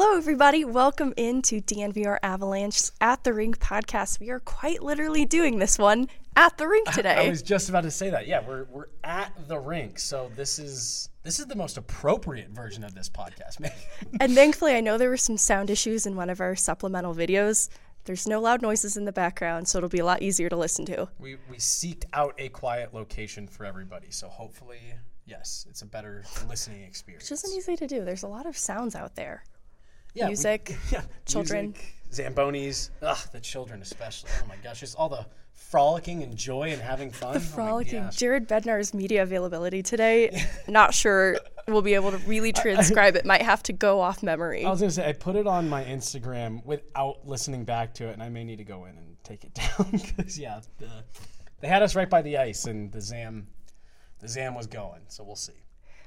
Hello, everybody. Welcome into DNVR Avalanche's At the Rink podcast. We are quite literally doing this one at the rink today. I was just about to say that. Yeah, we're at the rink, so this is the most appropriate version of this podcast, man. And thankfully, I know there were some sound issues in one of our supplemental videos. There's no loud noises in the background, so it'll be a lot easier to listen to. We seeked out a quiet location for everybody, so hopefully, yes, it's a better listening experience. Which isn't easy to do. There's a lot of sounds out there. Yeah, music, children. Music, Zambonis, the children especially. Oh my gosh, just all the frolicking and joy and having fun. The frolicking. Oh Jared Bednar's media availability today, not sure we'll be able to really transcribe it. Might have to go off memory. I was going to say, I put it on my Instagram without listening back to it, and I may need to go in and take it down because, they had us right by the ice, and the Zam was going, so we'll see.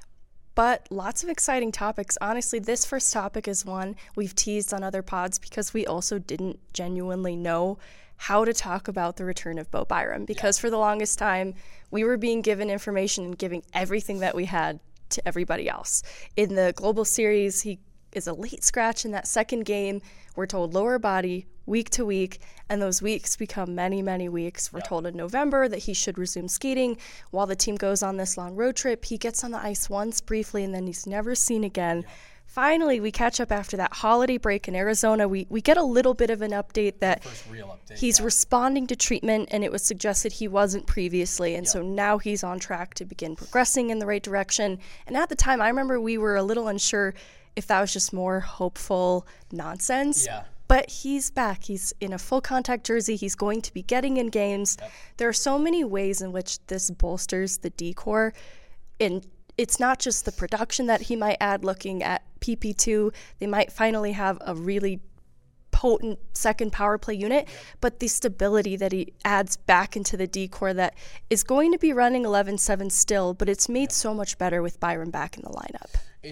But lots of exciting topics. Honestly, this first topic is one we've teased on other pods because we also didn't genuinely know how to talk about the return of Bo Byram. Because for the longest time, we were being given information and giving everything that we had to everybody else. In the Global Series, he is a late scratch in that second game. We're told lower body, week to week, and those weeks become many, many weeks. We're told in November that he should resume skating while the team goes on this long road trip. He gets on the ice once briefly, and then he's never seen again. Finally, we catch up after that holiday break in Arizona. We get a little bit of an update that First real update, he's responding to treatment, and it was suggested he wasn't previously. And so now he's on track to begin progressing in the right direction. And at the time, I remember we were a little unsure if that was just more hopeful nonsense. Yeah. But he's back. He's in a full contact jersey. He's going to be getting in games. Yep. There are so many ways in which this bolsters the D-core. And it's not just the production that he might add looking at PP2. They might finally have a really potent second power play unit, but the stability that he adds back into the D-core that is going to be running 11-7 still, but it's made so much better with Byram back in the lineup.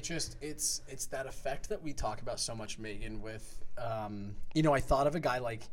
It's that effect that we talk about so much, Megan, with, I thought of a guy like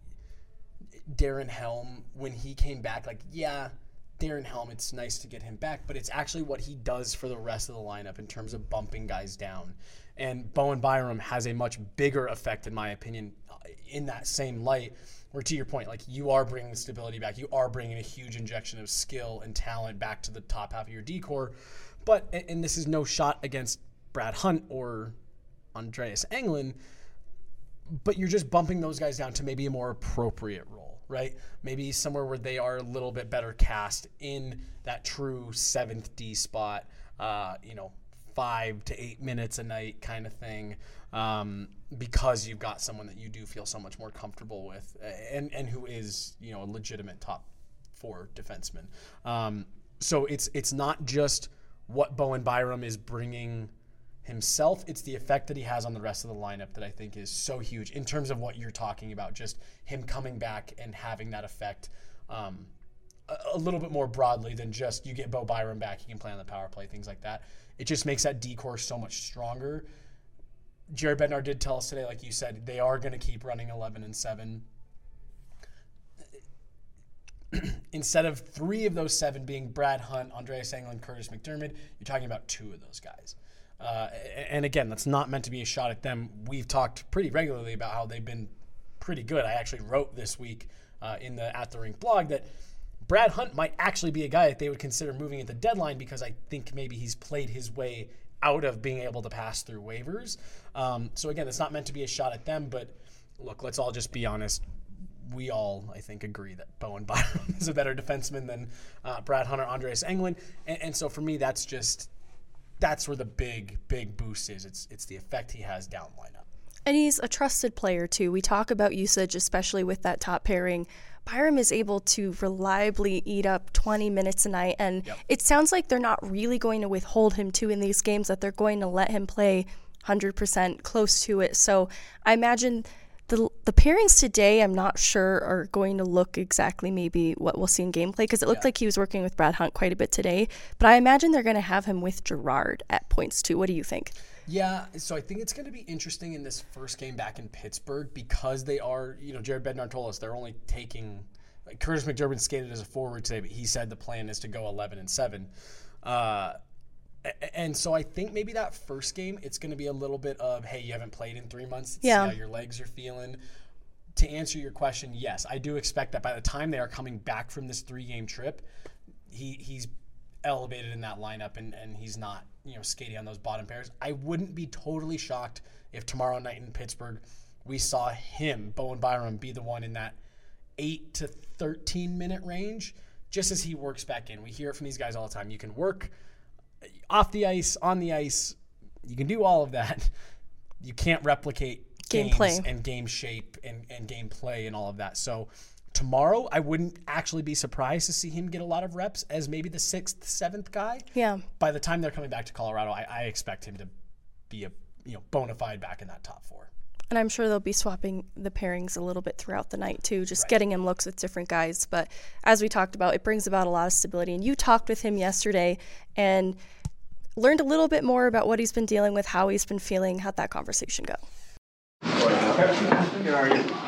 Darren Helm when he came back, Darren Helm, it's nice to get him back, but it's actually what he does for the rest of the lineup in terms of bumping guys down. And Bowen Byram has a much bigger effect, in my opinion, in that same light, where to your point, you are bringing stability back. You are bringing a huge injection of skill and talent back to the top half of your D-core. But, and this is no shot against Brad Hunt or Andreas Englund, but you're just bumping those guys down to maybe a more appropriate role, right? Maybe somewhere where they are a little bit better cast in that true 7th D spot, 5 to 8 minutes a night kind of thing, because you've got someone that you do feel so much more comfortable with and who is, a legitimate top 4 defenseman. So it's not just what Bowen Byram is bringing himself, it's the effect that he has on the rest of the lineup that I think is so huge in terms of what you're talking about, just him coming back and having that effect a little bit more broadly than just you get Bo Byram back, he can play on the power play, things like that. It just makes that D-core so much stronger. Jared Bednar did tell us today, like you said, they are going to keep running 11-7. Instead of 3 of those 7 being Brad Hunt, Andreas Englund, Curtis McDermott, you're talking about 2 of those guys. And again, that's not meant to be a shot at them. We've talked pretty regularly about how they've been pretty good. I actually wrote this week in the At the Rink blog that Brad Hunt might actually be a guy that they would consider moving at the deadline because I think maybe he's played his way out of being able to pass through waivers. So again, it's not meant to be a shot at them, but look, let's all just be honest. We all, I think, agree that Bowen Byram is a better defenseman than Brad Hunt or Andreas Englund. And so for me, that's where the big boost is. It's the effect he has down lineup. And he's a trusted player, too. We talk about usage, especially with that top pairing. Byram is able to reliably eat up 20 minutes a night, and it sounds like they're not really going to withhold him, too, in these games, that they're going to let him play 100% close to it. So I imagine the pairings today, I'm not sure, are going to look exactly maybe what we'll see in gameplay, because it looked like he was working with Brad Hunt quite a bit today. But I imagine they're going to have him with Gerard at points, too. What do you think? Yeah, so I think it's going to be interesting in this first game back in Pittsburgh because they are, Jared Bednar told us they're only taking, Curtis McDermott skated as a forward today, but he said the plan is to go 11-7. And so I think maybe that first game, it's going to be a little bit of, hey, you haven't played in 3 months. See how your legs are feeling. To answer your question, yes, I do expect that by the time they are coming back from this 3-game trip, he's elevated in that lineup and he's not, skating on those bottom pairs. I wouldn't be totally shocked if tomorrow night in Pittsburgh we saw him, Bowen Byram, be the one in that 8 to 13 minute range, just as he works back in. We hear it from these guys all the time. You can work off the ice, on the ice. You can do all of that. You can't replicate gameplay and game shape and game play and all of that. So tomorrow, I wouldn't actually be surprised to see him get a lot of reps as maybe the 6th, 7th guy. Yeah. By the time they're coming back to Colorado, I expect him to be a bona fide back in that top 4. And I'm sure they'll be swapping the pairings a little bit throughout the night too, just getting him looks with different guys. But as we talked about, it brings about a lot of stability. And you talked with him yesterday and learned a little bit more about what he's been dealing with, how he's been feeling. How'd that conversation go? Good, how are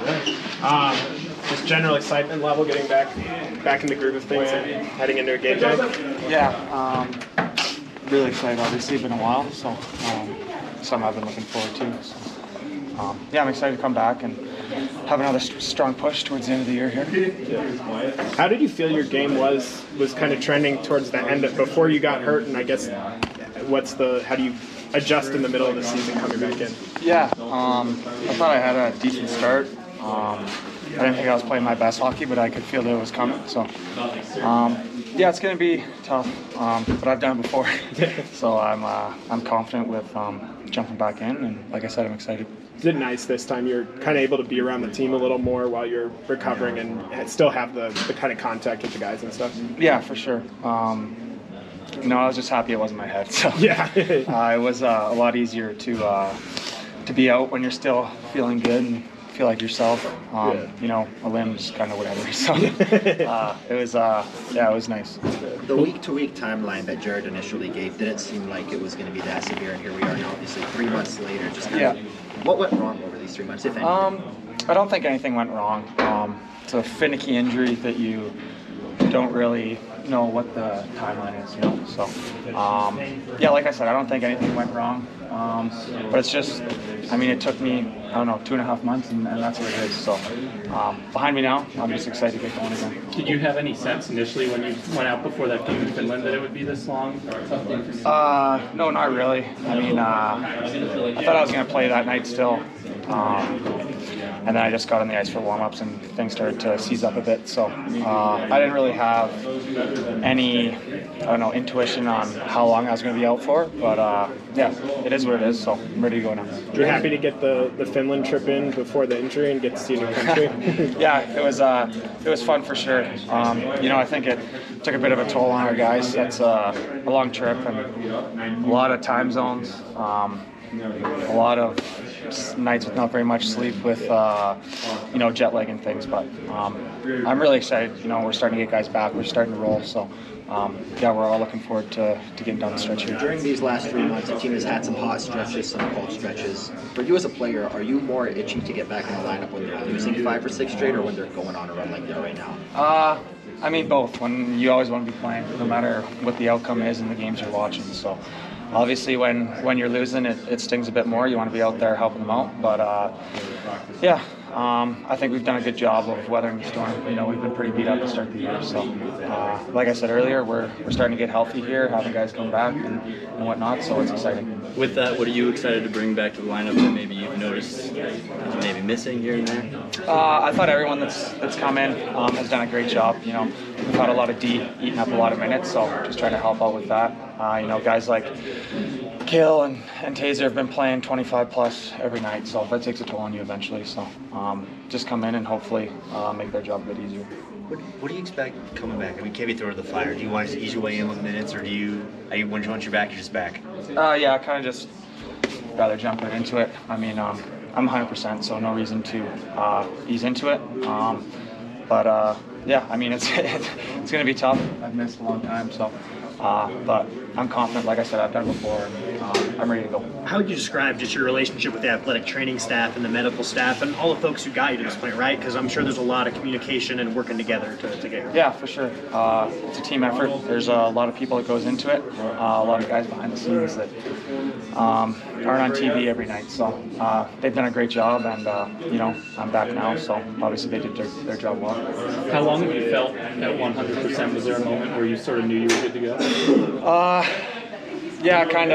you? Just general excitement level, getting back in the groove of things and heading into a game day? Yeah, really excited, obviously. It's been a while, so something I've been looking forward to. So, I'm excited to come back and have another strong push towards the end of the year here. How did you feel your game was kind of trending towards the end before you got hurt? And I guess how do you adjust in the middle of the season coming back in? Yeah, I thought I had a decent start. I didn't think I was playing my best hockey, but I could feel that it was coming. So, it's going to be tough, but I've done it before. So I'm confident with jumping back in, and like I said, I'm excited. Is it nice this time you're kind of able to be around the team a little more while you're recovering and still have the kind of contact with the guys and stuff? Yeah, for sure. I was just happy it wasn't my head. So yeah, it was a lot easier to be out when you're still feeling good and feel like yourself. A limb's kind of whatever. So it was nice. The week-to-week timeline that Jared initially gave didn't seem like it was going to be that severe, and here we are now, obviously 3 months later. Just what went wrong over these 3 months, if anything? I don't think anything went wrong. It's a finicky injury that you don't really know what the timeline is, So, like I said, I don't think anything went wrong. But it's just, it took me, 2.5 months, and that's what it is. So, behind me now, I'm just excited to get going again. Did you have any sense initially when you went out before that game in Finland that it would be this long? No, not really. I thought I was going to play that night still. And then I just got on the ice for warm-ups and things started to seize up a bit. So I didn't really have any, intuition on how long I was going to be out for. But it is what it is. So I'm ready to go now. You're happy to get the Finland trip in before the injury and get to see a new country? Yeah, it was fun for sure. I think it took a bit of a toll on our guys. That's a long trip and a lot of time zones. A lot of nights with not very much sleep with, jet lag and things. But I'm really excited. We're starting to get guys back. We're starting to roll. So, we're all looking forward to getting down the stretch here. During these last 3 months, the team has had some hot stretches, some cold stretches. For you as a player, are you more itchy to get back in the lineup when they're losing 5 or 6 straight, or when they're going on a run like they're right now? Both. When you always want to be playing, no matter what the outcome is in the games you're watching. So. Obviously, when you're losing, it stings a bit more. You want to be out there helping them out. But, I think we've done a good job of weathering the storm. We've been pretty beat up to start the year. So, like I said earlier, we're starting to get healthy here, having guys come back and whatnot. So it's exciting. With that, what are you excited to bring back to the lineup that maybe you've noticed maybe missing here and there? I thought everyone that's come in has done a great job. We've had a lot of D eating up a lot of minutes, so just trying to help out with that. Guys like Kale and Taser have been playing 25 plus every night, so that takes a toll on you eventually. So just come in and hopefully make their job a bit easier. What do you expect coming back? Can we throw to the fire? Do you want to ease your way in with minutes, or once you're back, you're just back? I kind of just rather jump right into it. I'm 100%, so no reason to ease into it. It's going to be tough. I've missed a long time, so But I'm confident. Like I said, I've done it before, and I'm ready to go. How would you describe just your relationship with the athletic training staff and the medical staff and all the folks who got you to this point, right? Because I'm sure there's a lot of communication and working together to get here. Yeah, for sure. It's a team effort. There's a lot of people that goes into it. A lot of guys behind the scenes that aren't on TV every night. So they've done a great job, and I'm back now. So obviously they did their job well. How long have you felt at 100%? Was there a moment where you sort of knew you were good to go? Yeah, kind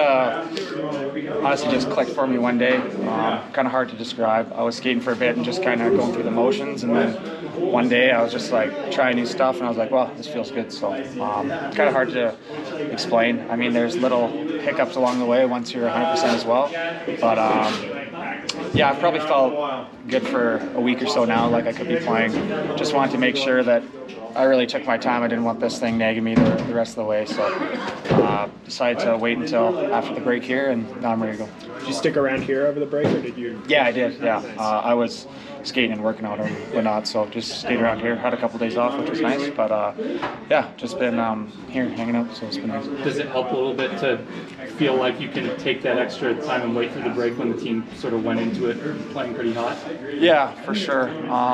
of honestly just clicked for me one day. Kind of hard to describe. I was skating for a bit and just kind of going through the motions, and then one day I was just like trying new stuff, and I was like, well, this feels good. So kind of hard to explain. I mean, there's little hiccups along the way once you're 100% as well. But yeah, I've probably felt good for a week or so now, like I could be playing. Just wanted to make sure that I really took my time. I didn't want this thing nagging me the rest of the way, so decided to wait until after the break here, and now I'm ready to go. Did you stick around here over the break, or did you? Yeah, I did. Yeah, I was skating and working out and whatnot, so just stayed around here. Had a couple days off, which was nice, but yeah, just been here hanging out, so it's been nice. Does it help a little bit to feel like you can take that extra time and wait through the break when the team sort of went into it playing pretty hot? Yeah, for sure.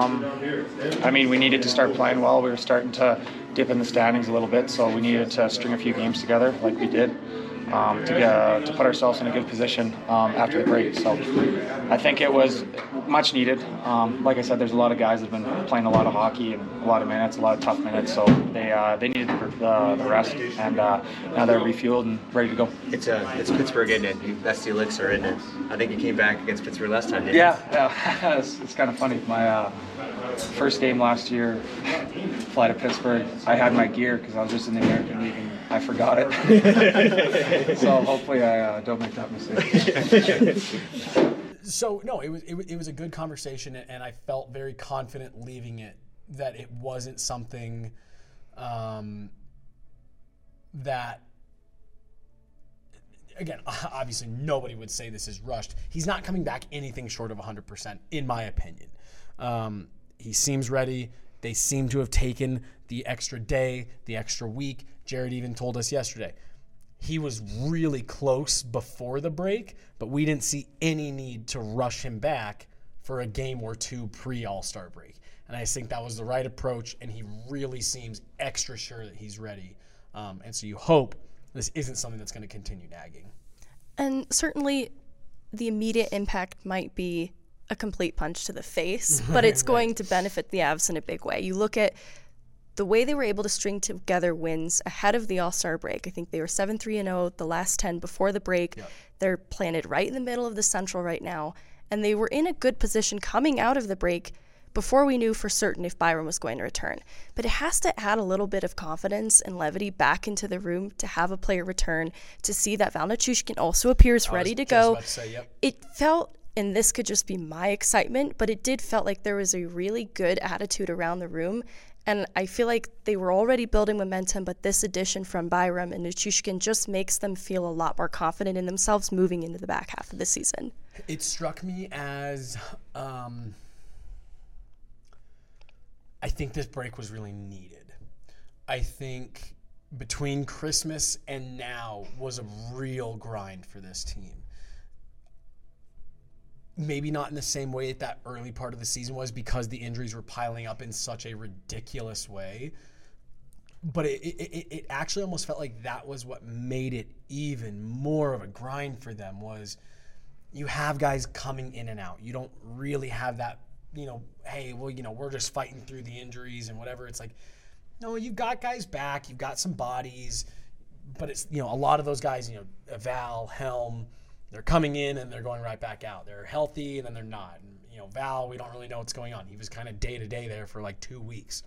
I mean, we needed to start playing well. We were starting to dip in the standings a little bit, so we needed to string a few games together like we did to put ourselves in a good position after the break. So I think it was much needed. Like I said, there's a lot of guys that have been playing a lot of hockey and a lot of minutes, a lot of tough minutes, so they needed the rest, and now they're refueled and ready to go. It's Pittsburgh, isn't it? That's the elixir, isn't it? I think you came back against Pittsburgh last time, didn't you? Yeah. It's kind of funny. My first game last year, fly to Pittsburgh, I had my gear because I was just in the American League and I forgot it. So hopefully I don't make that mistake. So no, it was a good conversation, and I felt very confident leaving it that it wasn't something that, again, obviously nobody would say this is rushed. He's not coming back anything short of 100%, in my opinion. He seems ready. They seem to have taken the extra day, the extra week. Jared even told us yesterday he was really close before the break, but we didn't see any need to rush him back for a game or two pre-All-Star break. And I think that was the right approach, and he really seems extra sure that he's ready. And so you hope this isn't something that's going to continue nagging. And certainly the immediate impact might be a complete punch to the face, but it's going to benefit the Avs in a big way. You look at the way they were able to string together wins ahead of the All-Star break. I think they were 7-3-0 the last 10 before the break. Yep. They're planted right in the middle of the Central right now, and they were in a good position coming out of the break before we knew for certain if Byram was going to return. But it has to add a little bit of confidence and levity back into the room to have a player return, to see that Val Nichushkin also appears ready to go. It felt, and this could just be my excitement, but it did felt like there was a really good attitude around the room. And I feel like they were already building momentum, but this addition from Byram and Nichushkin just makes them feel a lot more confident in themselves moving into the back half of the season. It struck me as I think this break was really needed. I think between Christmas and now was a real grind for this team. Maybe not in the same way that early part of the season was, because the injuries were piling up in such a ridiculous way. But it actually almost felt like that was what made it even more of a grind for them, was you have guys coming in and out. You don't really have that, hey, well, we're just fighting through the injuries and whatever. It's like, no, you've got guys back. You've got some bodies. But it's, a lot of those guys, Val, Helm, they're coming in and they're going right back out. They're healthy and then they're not. And, Val, we don't really know what's going on. He was kind of day-to-day there for like 2 weeks.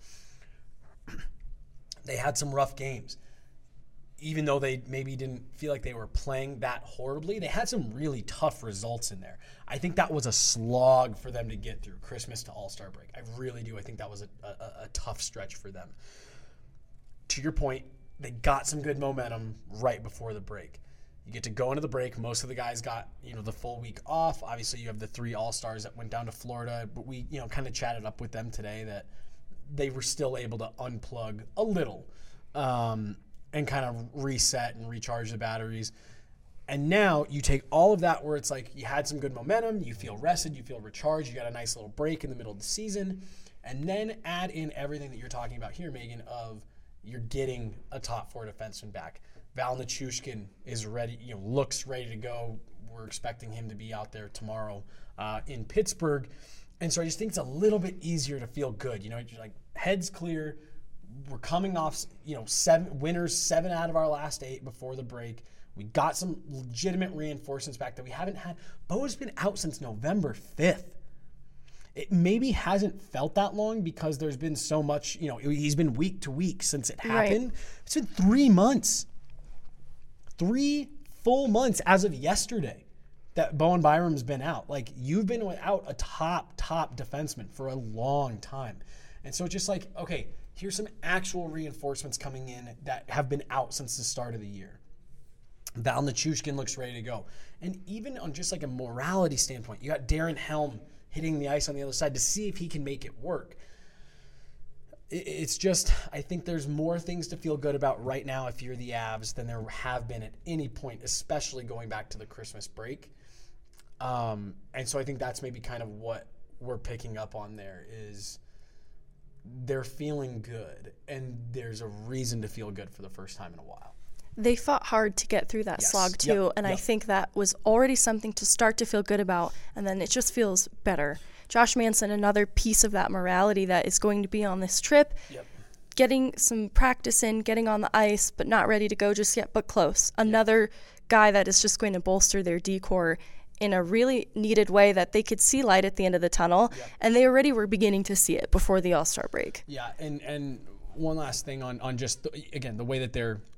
They had some rough games. Even though they maybe didn't feel like they were playing that horribly, they had some really tough results in there. I think that was a slog for them to get through Christmas to All-Star break. I really do. I think that was a tough stretch for them. To your point, they got some good momentum right before the break. You get to go into the break. Most of the guys got, the full week off. Obviously, you have the 3 All-Stars that went down to Florida, but we, kind of chatted up with them today that they were still able to unplug a little. and kind of reset and recharge the batteries. And now you take all of that where it's like you had some good momentum, you feel rested, you feel recharged, you got a nice little break in the middle of the season, and then add in everything that you're talking about here, Megan, of you're getting a top 4 defenseman back. Val Nichushkin is ready, looks ready to go. We're expecting him to be out there tomorrow in Pittsburgh. And so I just think it's a little bit easier to feel good. You're like, head's clear. We're coming off, 7 winners, 7 out of our last 8 before the break. We got some legitimate reinforcements back that we haven't had. Bo's been out since November 5th. It maybe hasn't felt that long because there's been so much, he's been week to week since it happened. Right. It's been 3 months. 3 full months as of yesterday that Bowen Byram's been out. Like, you've been without a top defenseman for a long time. And so it's just like, okay, here's some actual reinforcements coming in that have been out since the start of the year. Val Nichushkin looks ready to go. And even on just like a morality standpoint, you got Darren Helm hitting the ice on the other side to see if he can make it work. It's just, I think there's more things to feel good about right now if you're the Avs than there have been at any point, especially going back to the Christmas break. And so I think that's maybe kind of what we're picking up on there is they're feeling good, and there's a reason to feel good for the first time in a while. They fought hard to get through that slog too, and I think that was already something to start to feel good about, and then it just feels better. Josh Manson, another piece of that morality that is going to be on this trip, getting some practice in, getting on the ice, but not ready to go just yet, but close. Another guy that is just going to bolster their D-core in a really needed way that they could see light at the end of the tunnel, and they already were beginning to see it before the All-Star break. Yeah, and one last thing on just, again, the way that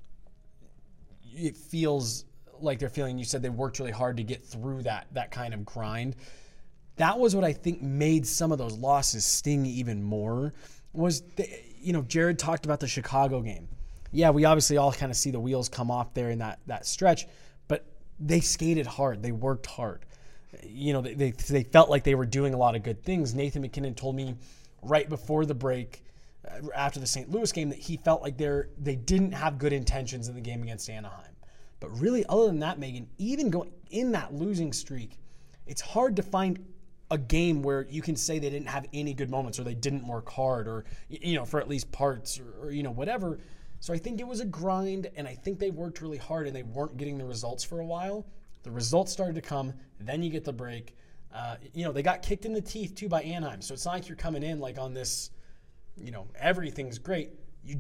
it feels like they're feeling. You said they worked really hard to get through that kind of grind. That was what I think made some of those losses sting even more. Was Jared talked about the Chicago game. Yeah, we obviously all kind of see the wheels come off there in that stretch, but they skated hard. They worked hard. They felt like they were doing a lot of good things. Nathan McKinnon told me right before the break, after the St. Louis game, that he felt like they didn't have good intentions in the game against Anaheim. But really, other than that, Megan, even going in that losing streak, it's hard to find a game where you can say they didn't have any good moments or they didn't work hard or, for at least parts or whatever. So I think it was a grind, and I think they worked really hard, and they weren't getting the results for a while. The results started to come. Then you get the break. They got kicked in the teeth, too, by Anaheim. So it's not like you're coming in like on this, everything's great.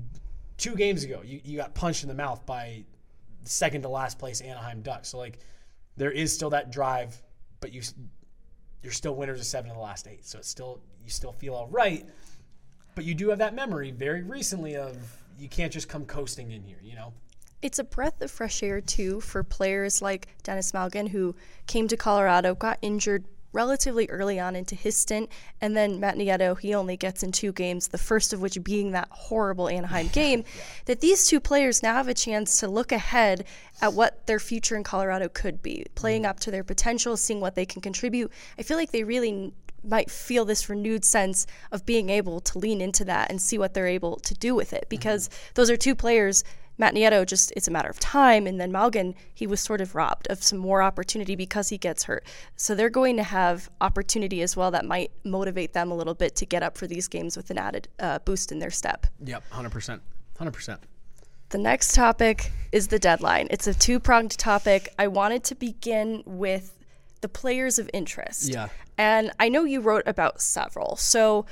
2 games ago, you got punched in the mouth by second to last place Anaheim Ducks. So, there is still that drive, but you're still winners of 7 of the last 8. So you still feel all right, but you do have that memory very recently of you can't just come coasting in here, It's a breath of fresh air, too, for players like Dennis Malgin, who came to Colorado, got injured relatively early on into his stint, and then Matt Nieto, he only gets in 2 games, the first of which being that horrible Anaheim game, that these 2 players now have a chance to look ahead at what their future in Colorado could be, playing up to their potential, seeing what they can contribute. I feel like they really might feel this renewed sense of being able to lean into that and see what they're able to do with it, because those are 2 players. Matt Nieto, it's a matter of time, and then Malgin, he was sort of robbed of some more opportunity because he gets hurt. So they're going to have opportunity as well that might motivate them a little bit to get up for these games with an added boost in their step. Yep, 100%. 100%. The next topic is the deadline. It's a 2-pronged topic. I wanted to begin with the players of interest. Yeah. And I know you wrote about several, so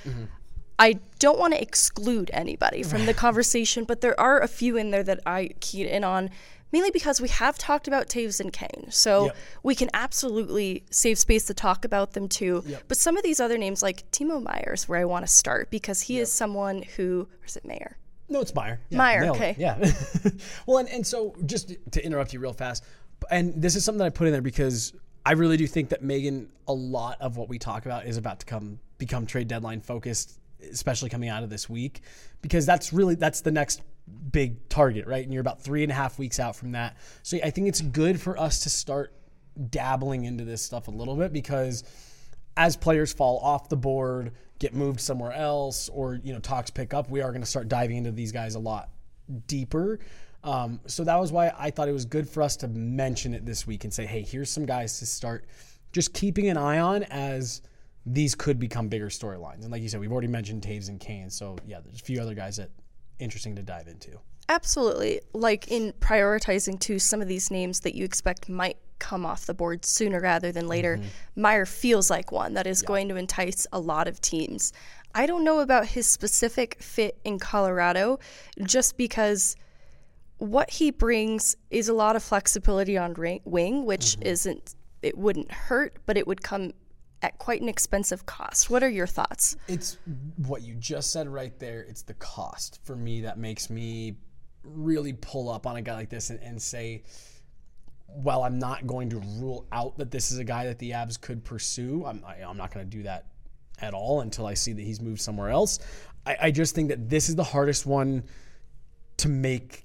I don't want to exclude anybody from the conversation, but there are a few in there that I keyed in on, mainly because we have talked about Toews and Kane. So we can absolutely save space to talk about them too. But some of these other names, like Timo Meier, is where I want to start, because he is someone who, or is it Meier? No, it's Meier. Yeah, Meier, okay. Yeah. Well, and so just to interrupt you real fast, and this is something that I put in there because I really do think that, Megan, a lot of what we talk about is about to become trade deadline focused, especially coming out of this week, because that's the next big target, right? And you're about 3.5 weeks out from that. So I think it's good for us to start dabbling into this stuff a little bit, because as players fall off the board, get moved somewhere else, or talks pick up, we are going to start diving into these guys a lot deeper. So that was why I thought it was good for us to mention it this week and say, hey, here's some guys to start just keeping an eye on as these could become bigger storylines. And like you said, we've already mentioned Taves and Kane. So yeah, there's a few other guys that interesting to dive into. Absolutely. Like in prioritizing too some of these names that you expect might come off the board sooner rather than later, Meier feels like one that is going to entice a lot of teams. I don't know about his specific fit in Colorado, just because what he brings is a lot of flexibility on wing, which it wouldn't hurt, but it would come at quite an expensive cost. What are your thoughts? It's what you just said right there. It's the cost for me that makes me really pull up on a guy like this and say, while I'm not going to rule out that this is a guy that the Avs could pursue, I'm not going to do that at all until I see that he's moved somewhere else. I just think that this is the hardest one to make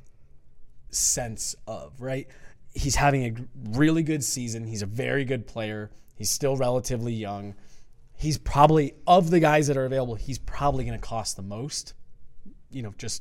sense of, right? He's having a really good season. He's a very good player. He's still relatively young. He's probably, of the guys that are available, he's probably going to cost the most. Just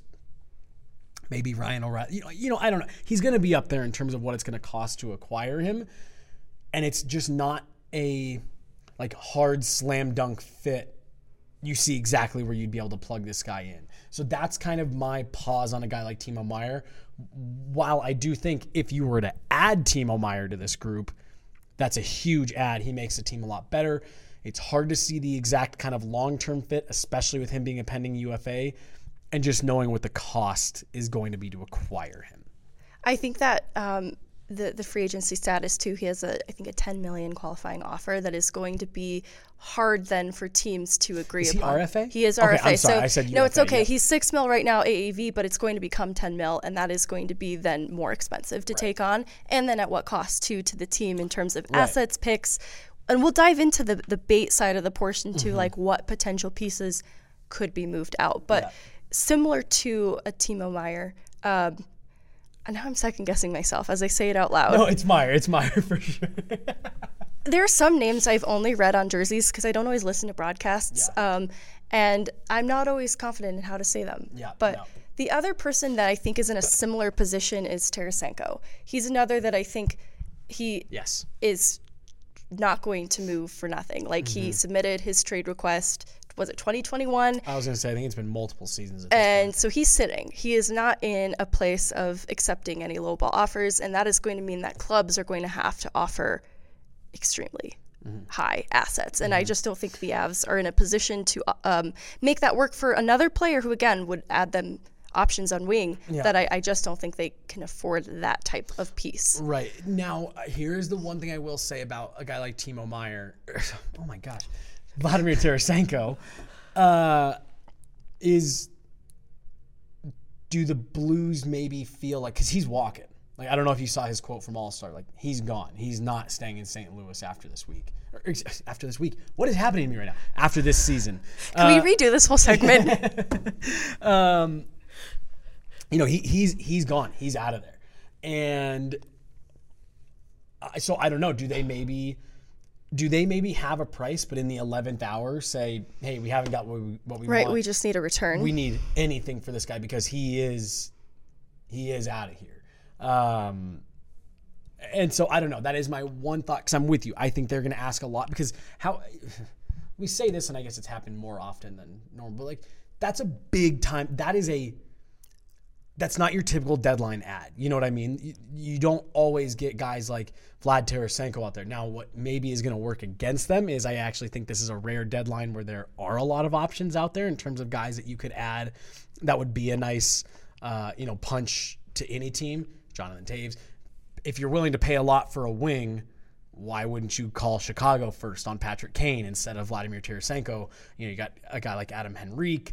maybe Ryan O'Reilly. I don't know. He's going to be up there in terms of what it's going to cost to acquire him. And it's just not a hard slam dunk fit. You see exactly where you'd be able to plug this guy in. So that's kind of my pause on a guy like Timo Meier. While I do think if you were to add Timo Meier to this group, that's a huge add. He makes the team a lot better. It's hard to see the exact kind of long-term fit, especially with him being a pending UFA, and just knowing what the cost is going to be to acquire him. I think that the free agency status too, he has I think a $10 million qualifying offer that is going to be hard then for teams to agree upon. Is he RFA? He is okay, RFA. I'm sorry, I said UFA, no, it's okay. Yeah. He's $6 million right now AAV, but it's going to become $10 million, and that is going to be then more expensive to take on. And then at what cost to the team in terms of assets, picks, and we'll dive into the bait side of the portion too, like what potential pieces could be moved out. But similar to a Timo Meier, and now I'm second guessing myself as I say it out loud. No, it's Meier. It's Meier for sure. There are some names I've only read on jerseys because I don't always listen to broadcasts, and I'm not always confident in how to say them. But the other person that I think is in a similar position is Tarasenko. He's another that I think he is not going to move for nothing. Like he submitted his trade request. Was it 2021? I was going to say, I think it's been multiple seasons at this point. And so he's sitting. He is not in a place of accepting any lowball offers, and that is going to mean that clubs are going to have to offer extremely high assets. And I just don't think the Avs are in a position to make that work for another player who, again, would add them options on wing that I just don't think they can afford that type of piece. Right. Now, here's the one thing I will say about a guy like Timo Meier. Oh, my gosh. Vladimir Tarasenko, do the Blues maybe feel like, because he's walking. Like, I don't know if you saw his quote from All-Star. Like, he's gone. He's not staying in St. Louis after this week. After this week? What is happening to me right now? After this season. Can we redo this whole segment? He's gone. He's out of there. And so I don't know. Do they maybe have a price, but in the 11th hour say, hey, we haven't got what we want. Right, we just need a return. We need anything for this guy because he is out of here. And so I don't know. That is my one thought, because I'm with you. I think they're going to ask a lot, because how we say this, and I guess it's happened more often than normal, but like that's a big time. That's not your typical deadline ad. You know what I mean? You don't always get guys like Vlad Tarasenko out there. Now, what maybe is going to work against them is I actually think this is a rare deadline where there are a lot of options out there in terms of guys that you could add that would be a nice, punch to any team. Jonathan Taves. If you're willing to pay a lot for a wing, why wouldn't you call Chicago first on Patrick Kane instead of Vladimir Tarasenko? You got a guy like Adam Henrique.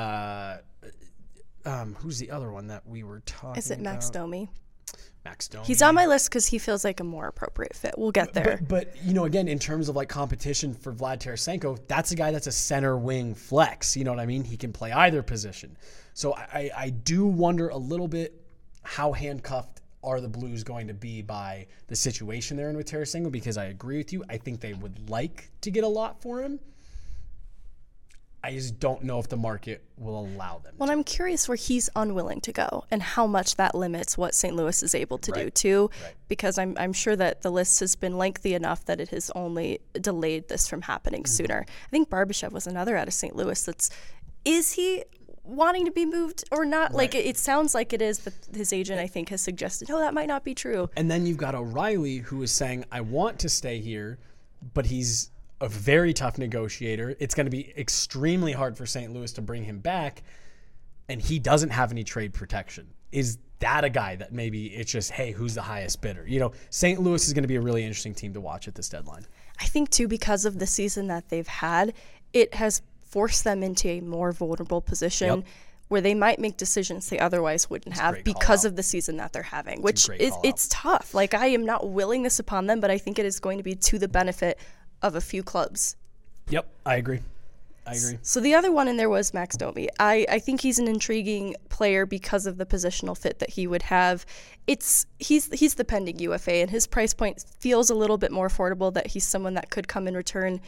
Who's the other one that we were talking about? Is it Max Domi? Max Domi. He's on my list because he feels like a more appropriate fit. We'll get there. But again, in terms of like competition for Vlad Tarasenko, that's a guy that's a center wing flex. You know what I mean? He can play either position. So I do wonder a little bit how handcuffed are the Blues going to be by the situation they're in with Tarasenko, because I agree with you. I think they would like to get a lot for him. I just don't know if the market will allow them. Well, I'm curious where he's unwilling to go and how much that limits what St. Louis is able to do too, because I'm sure that the list has been lengthy enough that it has only delayed this from happening sooner. I think Barbashev was another out of St. Louis. Is he wanting to be moved or not? Like it sounds like it is, but his agent I think has suggested, that might not be true. And then you've got O'Reilly who is saying, I want to stay here, but he's a very tough negotiator. It's going to be extremely hard for St. Louis to bring him back, and he doesn't have any trade protection. Is that a guy that maybe it's just, hey, who's the highest bidder? St. Louis is going to be a really interesting team to watch at this deadline. I think, too, because of the season that they've had, it has forced them into a more vulnerable position where they might make decisions they otherwise wouldn't have because of the season that they're having, which it's tough. Like, I am not willing this upon them, but I think it is going to be to the benefit of a few clubs. Yep, I agree. So the other one in there was Max Domi. I think he's an intriguing player because of the positional fit that he would have. He's the pending UFA, and his price point feels a little bit more affordable, that he's someone that could come in return.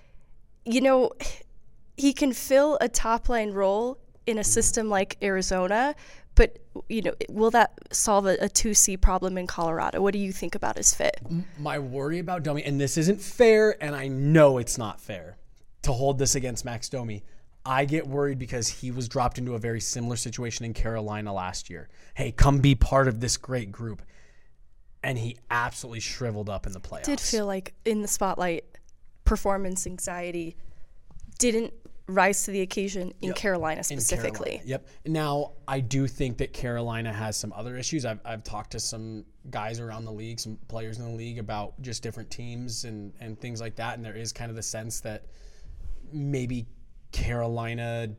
He can fill a top-line role in a system like Arizona, but will that solve a 2C problem in Colorado? What do you think about his fit? My worry about Domi, and this isn't fair, and I know it's not fair to hold this against Max Domi. I get worried because he was dropped into a very similar situation in Carolina last year. Hey, come be part of this great group. And he absolutely shriveled up in the playoffs. Did feel like in the spotlight, performance anxiety didn't rise to the occasion in Carolina specifically. Now, I do think that Carolina has some other issues. I've talked to some guys around the league, some players in the league, about just different teams and things like that. And there is kind of the sense that maybe Carolina,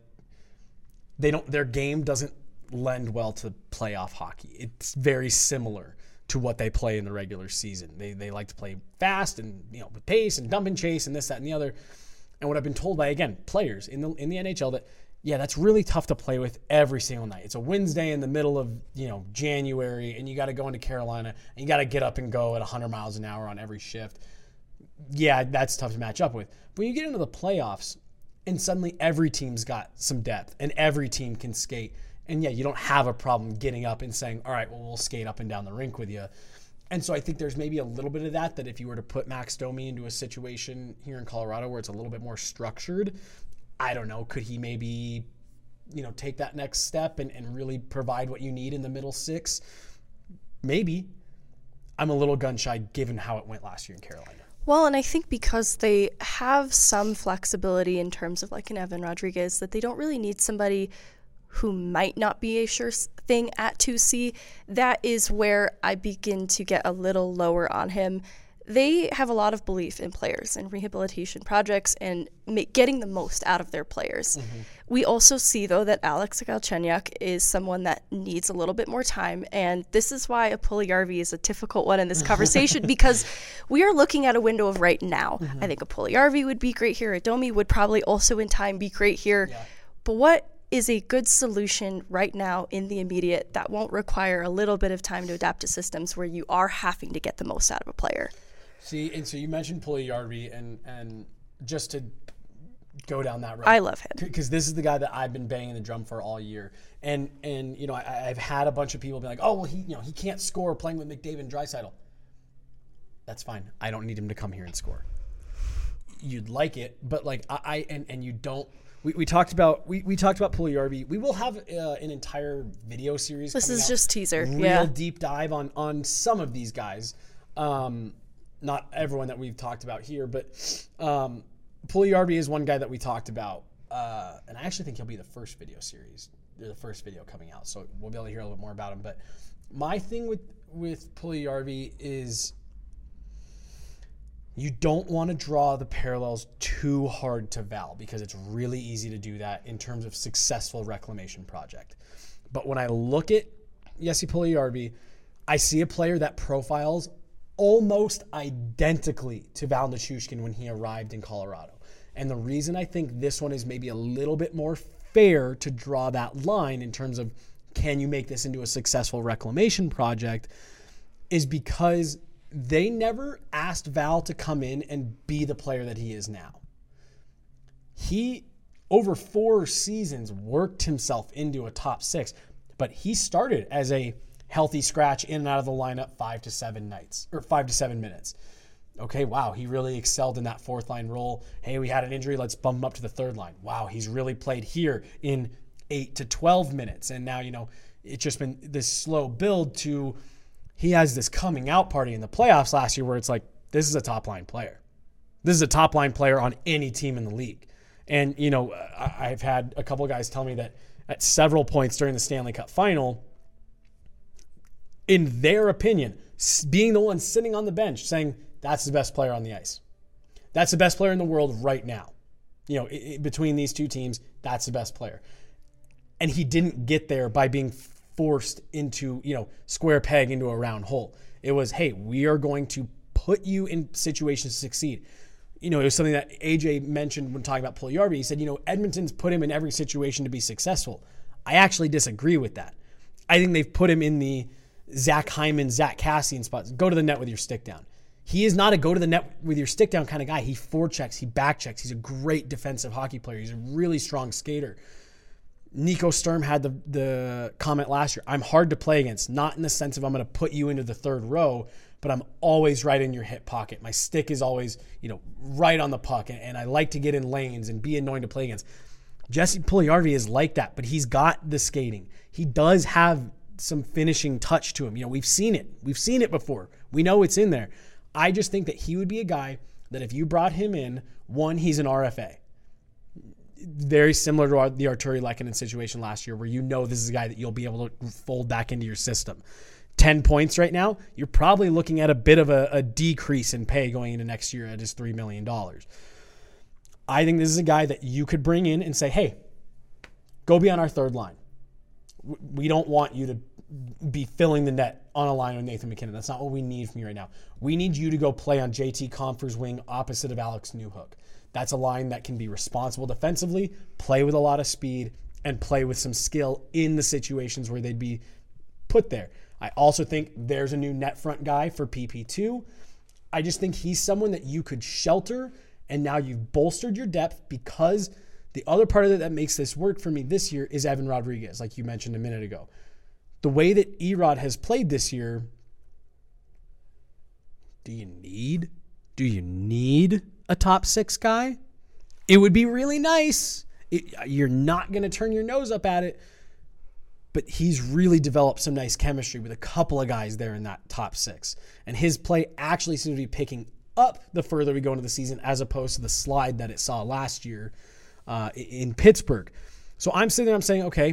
their game doesn't lend well to playoff hockey. It's very similar to what they play in the regular season. They like to play fast and with pace and dump and chase and this, that, and the other. And what I've been told by, again, players in the NHL, that that's really tough to play with every single night. It's a Wednesday in the middle of January, and you got to go into Carolina and you got to get up and go at 100 miles an hour on every shift. Yeah, that's tough to match up with. But when you get into the playoffs, and suddenly every team's got some depth and every team can skate, and you don't have a problem getting up and saying, all right, well, we'll skate up and down the rink with you. And so I think there's maybe a little bit of that if you were to put Max Domi into a situation here in Colorado where it's a little bit more structured, I don't know, could he maybe, take that next step and really provide what you need in the middle six? Maybe. I'm a little gun shy given how it went last year in Carolina. Well, and I think because they have some flexibility in terms of like an Evan Rodriguez, that they don't really need somebody who might not be a sure thing at 2C. That is where I begin to get a little lower on him. They have a lot of belief in players and rehabilitation projects and getting the most out of their players. Mm-hmm. We also see, though, that Alex Galchenyuk is someone that needs a little bit more time, and this is why a Puljujarvi is a difficult one in this conversation because we are looking at a window of right now. Mm-hmm. I think a Puljujarvi would be great here. A Domi would probably also in time be great here. Yeah. But what is a good solution right now in the immediate that won't require a little bit of time to adapt to systems where you are having to get the most out of a player? See, and so you mentioned Puljujarvi, and just to go down that road. I love him. Because this is the guy that I've been banging the drum for all year. And I've had a bunch of people be like, oh, well, he can't score playing with McDavid and Draisaitl. That's fine. I don't need him to come here and score. You'd like it, but like and you don't. We talked about Puljujarvi. We will have an entire video series. This is just teaser. Real deep dive on some of these guys. Not everyone that we've talked about here, but Puljujarvi is one guy that we talked about, and I actually think he'll be the first video series, the first video coming out. So we'll be able to hear a little bit more about him. But my thing with Puljujarvi is you don't want to draw the parallels too hard to Val because it's really easy to do that in terms of successful reclamation project. But when I look at Jesse Puljujarvi, I see a player that profiles almost identically to Val Nichushkin when he arrived in Colorado. And the reason I think this one is maybe a little bit more fair to draw that line in terms of can you make this into a successful reclamation project is because they never asked Val to come in and be the player that he is now. He over 4 seasons worked himself into a top 6, but he started as a healthy scratch in and out of the lineup 5 to 7 minutes. Okay, wow, he really excelled in that 4th line role. Hey, we had an injury, let's bump him up to the 3rd line. Wow, he's really played here in 8 to 12 minutes. And now, it's just been this slow build to he has this coming out party in the playoffs last year where it's like, this is a top line player. This is a top line player on any team in the league. And, I've had a couple of guys tell me that at several points during the Stanley Cup final, in their opinion, being the one sitting on the bench saying, that's the best player on the ice. That's the best player in the world right now. Between these two teams, that's the best player. And he didn't get there by being forced into, square peg into a round hole. It was, hey, we are going to put you in situations to succeed. It was something that AJ mentioned when talking about Puljujarvi. He said, Edmonton's put him in every situation to be successful. I actually disagree with that. I think they've put him in the Zach Hyman, Zach Kassian spots. Go to the net with your stick down. He is not a go to the net with your stick down kind of guy. He forechecks, he backchecks. He's a great defensive hockey player. He's a really strong skater. Nico Sturm had the comment last year, I'm hard to play against, not in the sense of I'm going to put you into the 3rd row, but I'm always right in your hip pocket. My stick is always, right on the puck, and I like to get in lanes and be annoying to play against. Jesse Puljujarvi is like that, but he's got the skating. He does have some finishing touch to him. We've seen it. We've seen it before. We know it's in there. I just think that he would be a guy that if you brought him in, one, he's an RFA. Very similar to the Arturi Lehkonen situation last year where this is a guy that you'll be able to fold back into your system. 10 points right now, you're probably looking at a bit of a decrease in pay going into next year at his $3 million. I think this is a guy that you could bring in and say, hey, go be on our 3rd line. We don't want you to be filling the net on a line with Nathan MacKinnon. That's not what we need from you right now. We need you to go play on JT Compher's wing opposite of Alex Newhook. That's a line that can be responsible defensively, play with a lot of speed, and play with some skill in the situations where they'd be put there. I also think there's a new net front guy for PP2. I just think he's someone that you could shelter, and now you've bolstered your depth because the other part of it that makes this work for me this year is Evan Rodriguez, like you mentioned a minute ago. The way that Erod has played this year, do you need a top 6 guy? It would be really nice. You're not going to turn your nose up at it, but he's really developed some nice chemistry with a couple of guys there in that top 6. And his play actually seems to be picking up the further we go into the season as opposed to the slide that it saw last year in Pittsburgh. So I'm sitting there, I'm saying, okay,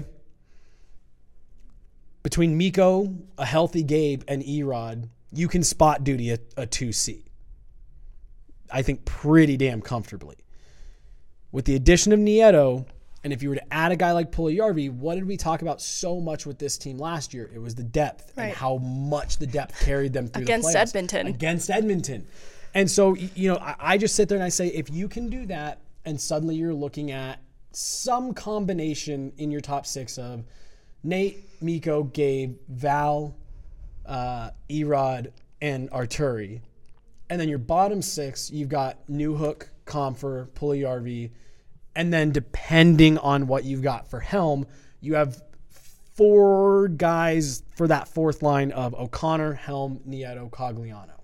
between Mikko, a healthy Gabe, and Erod, you can spot duty a 2C. I think pretty damn comfortably. With the addition of Nieto, and if you were to add a guy like Puljujarvi, what did we talk about so much with this team last year? It was the depth and how much the depth carried them through the playoffs. Against Edmonton. And so, I just sit there and I say, if you can do that, and suddenly you're looking at some combination in your top 6 of Nate, Mikko, Gabe, Val, Erod, and Arturi. And then your bottom 6, you've got Newhook, Compher, Puljujarvi, and then depending on what you've got for Helm, you have 4 guys for that 4th line of O'Connor, Helm, Nieto, Cogliano.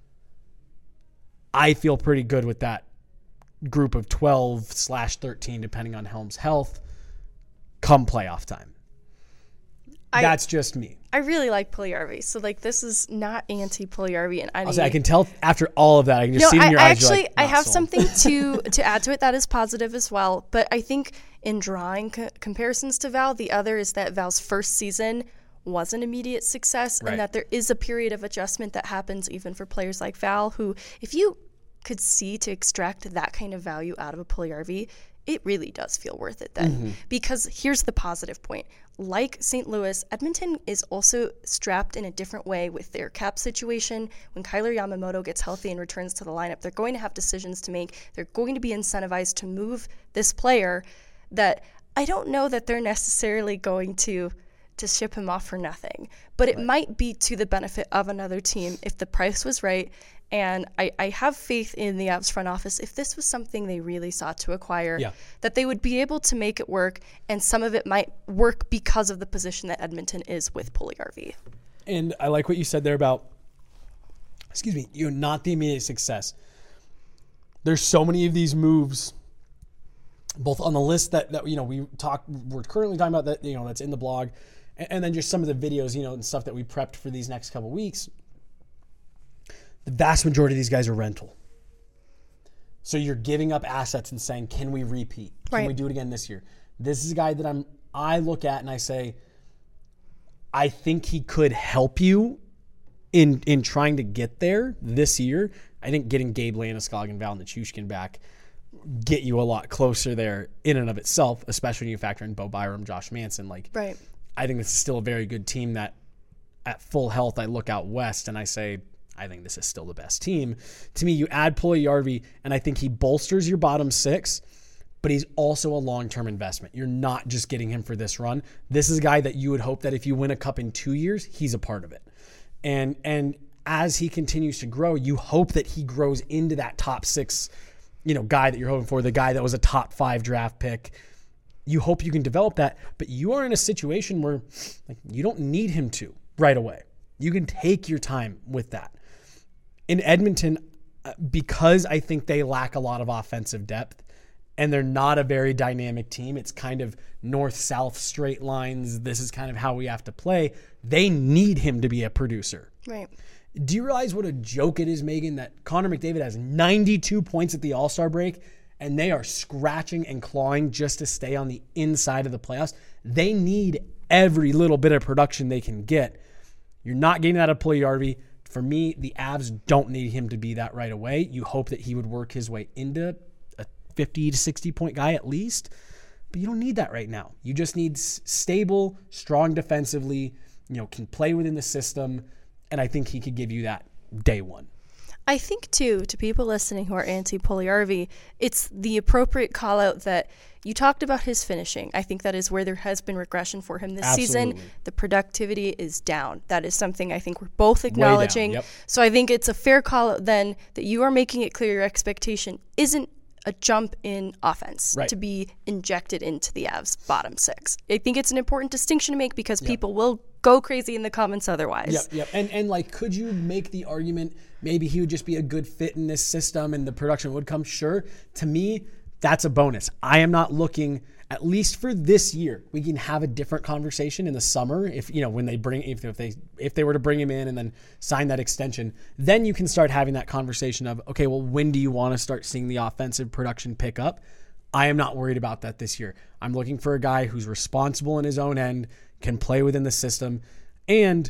I feel pretty good with that group of 12/13, depending on Helm's health, come playoff time. That's just me. I really like Puljujarvi. So, this is not anti-Puljujarvi in any... I can tell after all of that. I can just see it in your eyes. Actually, I have something to add to it that is positive as well. But I think in drawing comparisons to Val, the other is that Val's first season was an immediate success and that there is a period of adjustment that happens even for players like Val, who, if you could see to extract that kind of value out of a Puljujarvi, it really does feel worth it then. Mm-hmm. Because here's the positive point. Like St. Louis, Edmonton is also strapped in a different way with their cap situation. When Kyler Yamamoto gets healthy and returns to the lineup, they're going to have decisions to make. They're going to be incentivized to move this player that I don't know that they're necessarily going to to ship him off for nothing. But it might be to the benefit of another team if the price was right. And I have faith in the Avs front office. If this was something they really sought to acquire, that they would be able to make it work, and some of it might work because of the position that Edmonton is with Puljujarvi. And I like what you said there about, not the immediate success. There's so many of these moves, both on the list that we're currently talking about, that that's in the blog, and then just some of the videos, and stuff that we prepped for these next couple weeks. The vast majority of these guys are rental. So you're giving up assets and saying, can we repeat? Can we do it again this year? This is a guy that I look at and I say, I think he could help you in trying to get there this year. I think getting Gabe Landeskog and Val Nichushkin back get you a lot closer there in and of itself, especially when you factor in Bo Byram, Josh Manson. I think this is still a very good team that at full health, I look out west and I say, I think this is still the best team. To me, you add Puljujarvi, and I think he bolsters your bottom six, but he's also a long-term investment. You're not just getting him for this run. This is a guy that you would hope that if you win a cup in 2 years, he's a part of it. And as he continues to grow, you hope that he grows into that top six, guy that you're hoping for, the guy that was a top 5 draft pick. You hope you can develop that, but you are in a situation where you don't need him to right away. You can take your time with that. In Edmonton, because I think they lack a lot of offensive depth and they're not a very dynamic team, it's kind of north-south straight lines. This is kind of how we have to play. They need him to be a producer. Right. Do you realize what a joke it is, Megan, that Connor McDavid has 92 points at the All-Star break and they are scratching and clawing just to stay on the inside of the playoffs? They need every little bit of production they can get. You're not getting that out of Puljujarvi. For me, the Avs don't need him to be that right away. You hope that he would work his way into a 50 to 60-point guy at least, but you don't need that right now. You just need stable, strong defensively, can play within the system, and I think he could give you that day one. I think, too, to people listening who are anti-Puljujarvi, it's the appropriate call-out that you talked about his finishing. I think that is where there has been regression for him this season. The productivity is down. That is something I think we're both acknowledging. Yep. So I think it's a fair call-out then that you are making it clear your expectation isn't a jump in offense to be injected into the Avs bottom six. I think it's an important distinction to make because people will go crazy in the comments otherwise. Yep. And could you make the argument maybe he would just be a good fit in this system and the production would come? Sure. To me, that's a bonus. I am not looking, at least for this year. We can have a different conversation in the summer if when they bring if they were to bring him in and then sign that extension, then you can start having that conversation of, okay, well, when do you want to start seeing the offensive production pick up? I am not worried about that this year. I'm looking for a guy who's responsible in his own end, can play within the system, and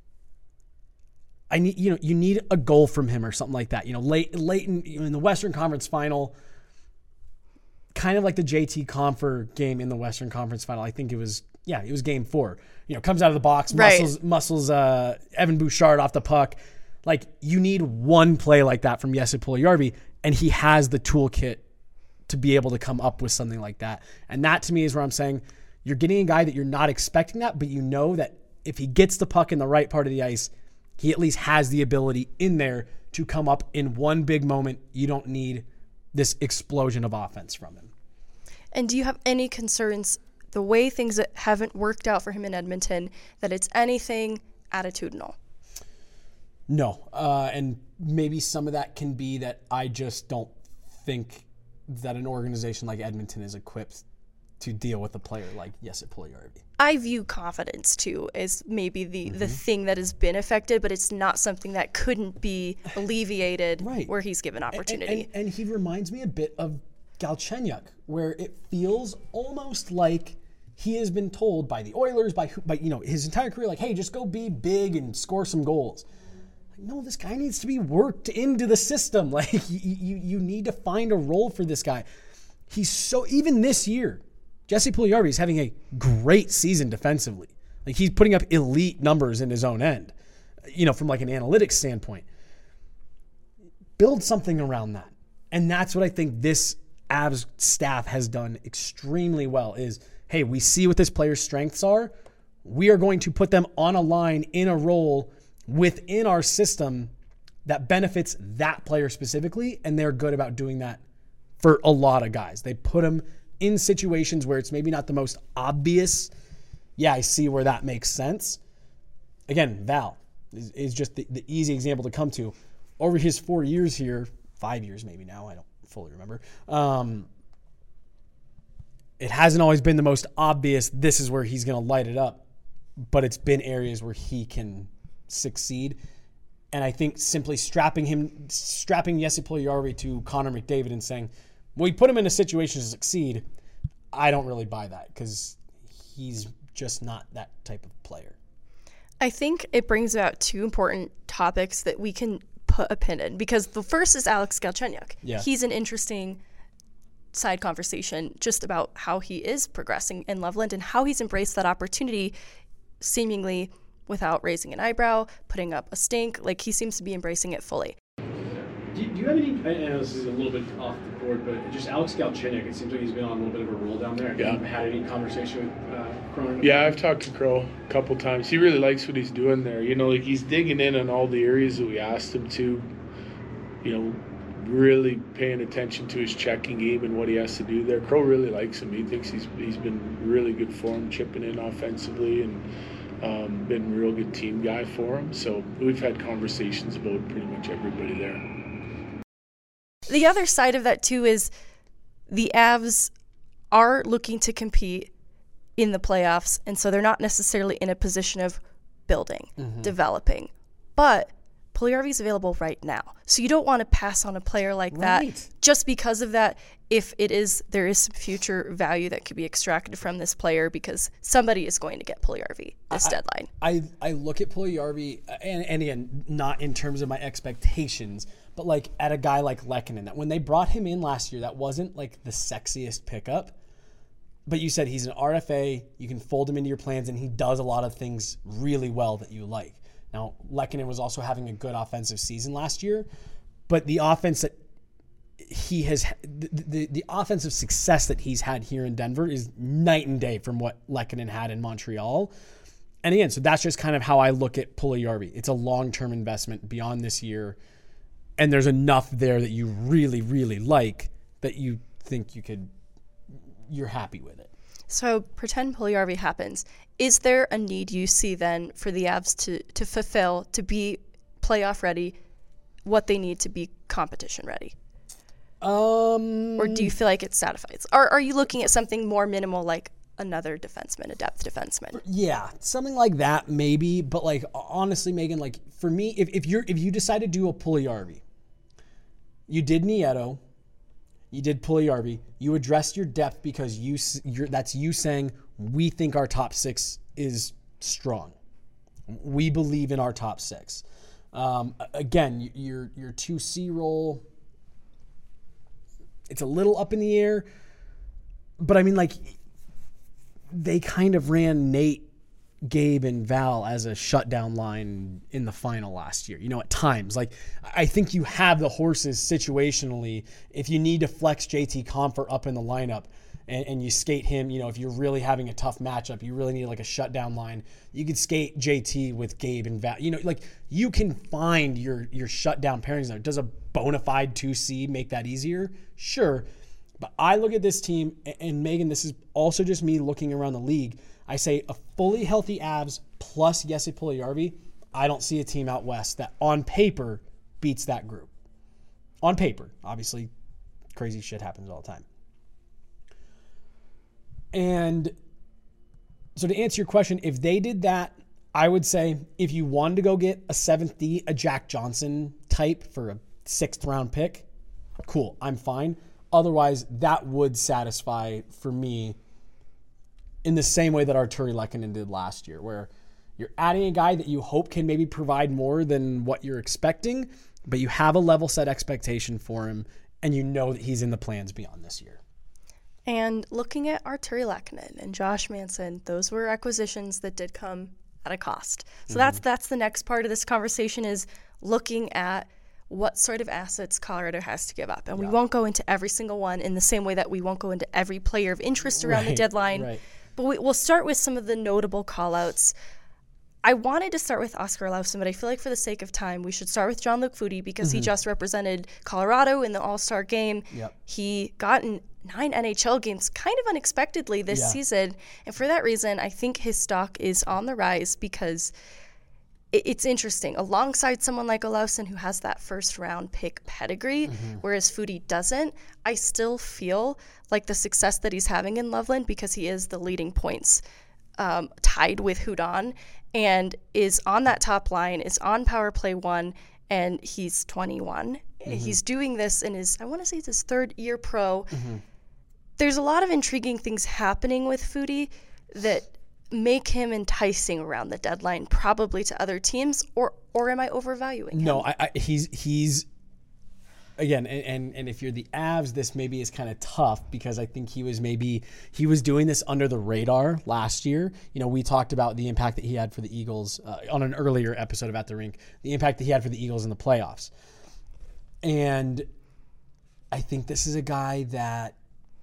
I need you need a goal from him or something like that. Late in the Western Conference Final, kind of like the JT Compher game in the Western Conference Final. I think it was game 4. Comes out of the box, muscles Evan Bouchard off the puck. You need one play like that from Jesse Puljujarvi, and he has the toolkit to be able to come up with something like that. And that to me is where I'm saying you're getting a guy that you're not expecting that, but you know that if he gets the puck in the right part of the ice, he at least has the ability in there to come up in one big moment. You don't need this explosion of offense from him. And do you have any concerns, the way things that haven't worked out for him in Edmonton, that it's anything attitudinal? No. And maybe some of that can be that I just don't think that an organization like Edmonton is equipped to deal with a player like Jesse Puljujarvi. I view confidence, too, as maybe the thing that has been affected, but it's not something that couldn't be alleviated where he's given opportunity. And he reminds me a bit of Galchenyuk, where it feels almost like he has been told by the Oilers, by his entire career, hey, just go be big and score some goals. No, this guy needs to be worked into the system. You need to find a role for this guy. Even this year, Jesse Puljujarvi is having a great season defensively. He's putting up elite numbers in his own end, from an analytics standpoint. Build something around that. And that's what I think this Avs staff has done extremely well is, hey, we see what this player's strengths are. we are going to put them on a line in a role within our system that benefits that player specifically, and they're good about doing that for a lot of guys. They put them in situations where it's maybe not the most obvious. Yeah, I see where that makes sense. Again, Val is just the easy example to come to. Over his 4 years here, 5 years maybe now, I don't fully remember, it hasn't always been the most obvious, this is where he's going to light it up, but it's been areas where he can succeed. And I think simply strapping Jesse Puljujarvi to Connor McDavid and saying, well, we put him in a situation to succeed, I don't really buy that because he's just not that type of player. I think it brings about two important topics that we can put a pin in, because the first is Alex Galchenyuk. Yeah. He's an interesting side conversation just about how he is progressing in Loveland and how he's embraced that opportunity seemingly without raising an eyebrow, putting up a stink. Like, he seems to be embracing it fully. Do you have any, I know this is a little bit off the board, but just Alex Galchenyuk, it seems like he's been on a little bit of a roll down there. Have you had any conversation with Cronin? Yeah, I've talked to Crow a couple times. He really likes what he's doing there. You know, like, he's digging in on all the areas that we asked him to, you know, really paying attention to his checking game and what he has to do there. Crow really likes him. He thinks he's been really good for him, chipping in offensively, and been a real good team guy for him. So we've had conversations about pretty much everybody there. The other side of that, too, is the Avs are looking to compete in the playoffs, and so they're not necessarily in a position of building, developing. But Puljujarvi's available right now. So you don't want to pass on a player like that just because of that. If there is some future value that could be extracted from this player, because somebody is going to get Puljujarvi this deadline. I look at Puljujarvi, and again, not in terms of my expectations, but like at a guy like Lehkonen, that when they brought him in last year, that wasn't like the sexiest pickup. But you said he's an RFA, you can fold him into your plans, and he does a lot of things really well that you like. Now, Lehkonen was also having a good offensive season last year, but the offense that he has, the offensive success that he's had here in Denver is night and day from what Lehkonen had in Montreal. And again, so that's just kind of how I look at Puljujarvi. It's a long-term investment beyond this year, and there's enough there that you really, really like that you think you're happy with it. So pretend Puljujarvi happens. Is there a need you see then for the Avs to fulfill, to be playoff ready, what they need to be competition ready? Or do you feel like it satisfies? Or are you looking at something more minimal, like another defenseman, a depth defenseman? Yeah, something like that maybe. But like, honestly, Megan, like for me, if you decide to do a Puljujarvi, you did Nieto, you did Puljujarvi, you addressed your depth because that's you saying we think our top six is strong. We believe in our top six. Again, your 2C role, it's a little up in the air, but I mean, like, they kind of ran Nate, Gabe, and Val as a shutdown line in the final last year. You know, at times, like, I think you have the horses situationally. If you need to flex JT Compher up in the lineup and you skate him, you know, if you're really having a tough matchup, you really need like a shutdown line, you could skate JT with Gabe and Val. You know, like, you can find your shutdown pairings there. Does a bona fide 2C make that easier? Sure. But I look at this team, and Megan, this is also just me looking around the league. I say a fully healthy Avs plus Jesse Puljujarvi, I don't see a team out west that on paper beats that group. On paper. Obviously, crazy shit happens all the time. And so to answer your question, if they did that, I would say if you wanted to go get a 7th D, a Jack Johnson type for a 6th round pick, cool, I'm fine. Otherwise, that would satisfy for me in the same way that Artturi Lehkonen did last year, where you're adding a guy that you hope can maybe provide more than what you're expecting, but you have a level set expectation for him, and you know that he's in the plans beyond this year. And looking at Artturi Lehkonen and Josh Manson, those were acquisitions that did come at a cost. So that's the next part of this conversation, is looking at what sort of assets Colorado has to give up. And we won't go into every single one in the same way that we won't go into every player of interest around the deadline. But we'll start with some of the notable call-outs. I wanted to start with Oskar Olausson, but I feel like for the sake of time, we should start with Jean-Luc Foudy because he just represented Colorado in the All-Star game. Yep. He got in 9 NHL games kind of unexpectedly this season. And for that reason, I think his stock is on the rise because it's interesting. Alongside someone like Olausson who has that first-round pick pedigree, whereas Foudy doesn't, I still feel like the success that he's having in Loveland, because he is the leading points tied with Hudon, and is on that top line, is on power play 1, and he's 21. He's doing this in his, I want to say it's his 3rd year pro. There's a lot of intriguing things happening with Foudy that make him enticing around the deadline, probably to other teams, or am I overvaluing him? No, he's again, and if you're the Avs, this maybe is kind of tough because I think he was doing this under the radar last year. You know, we talked about the impact that he had for the Eagles on an earlier episode of At the Rink, the impact that he had for the Eagles in the playoffs. And I think this is a guy that,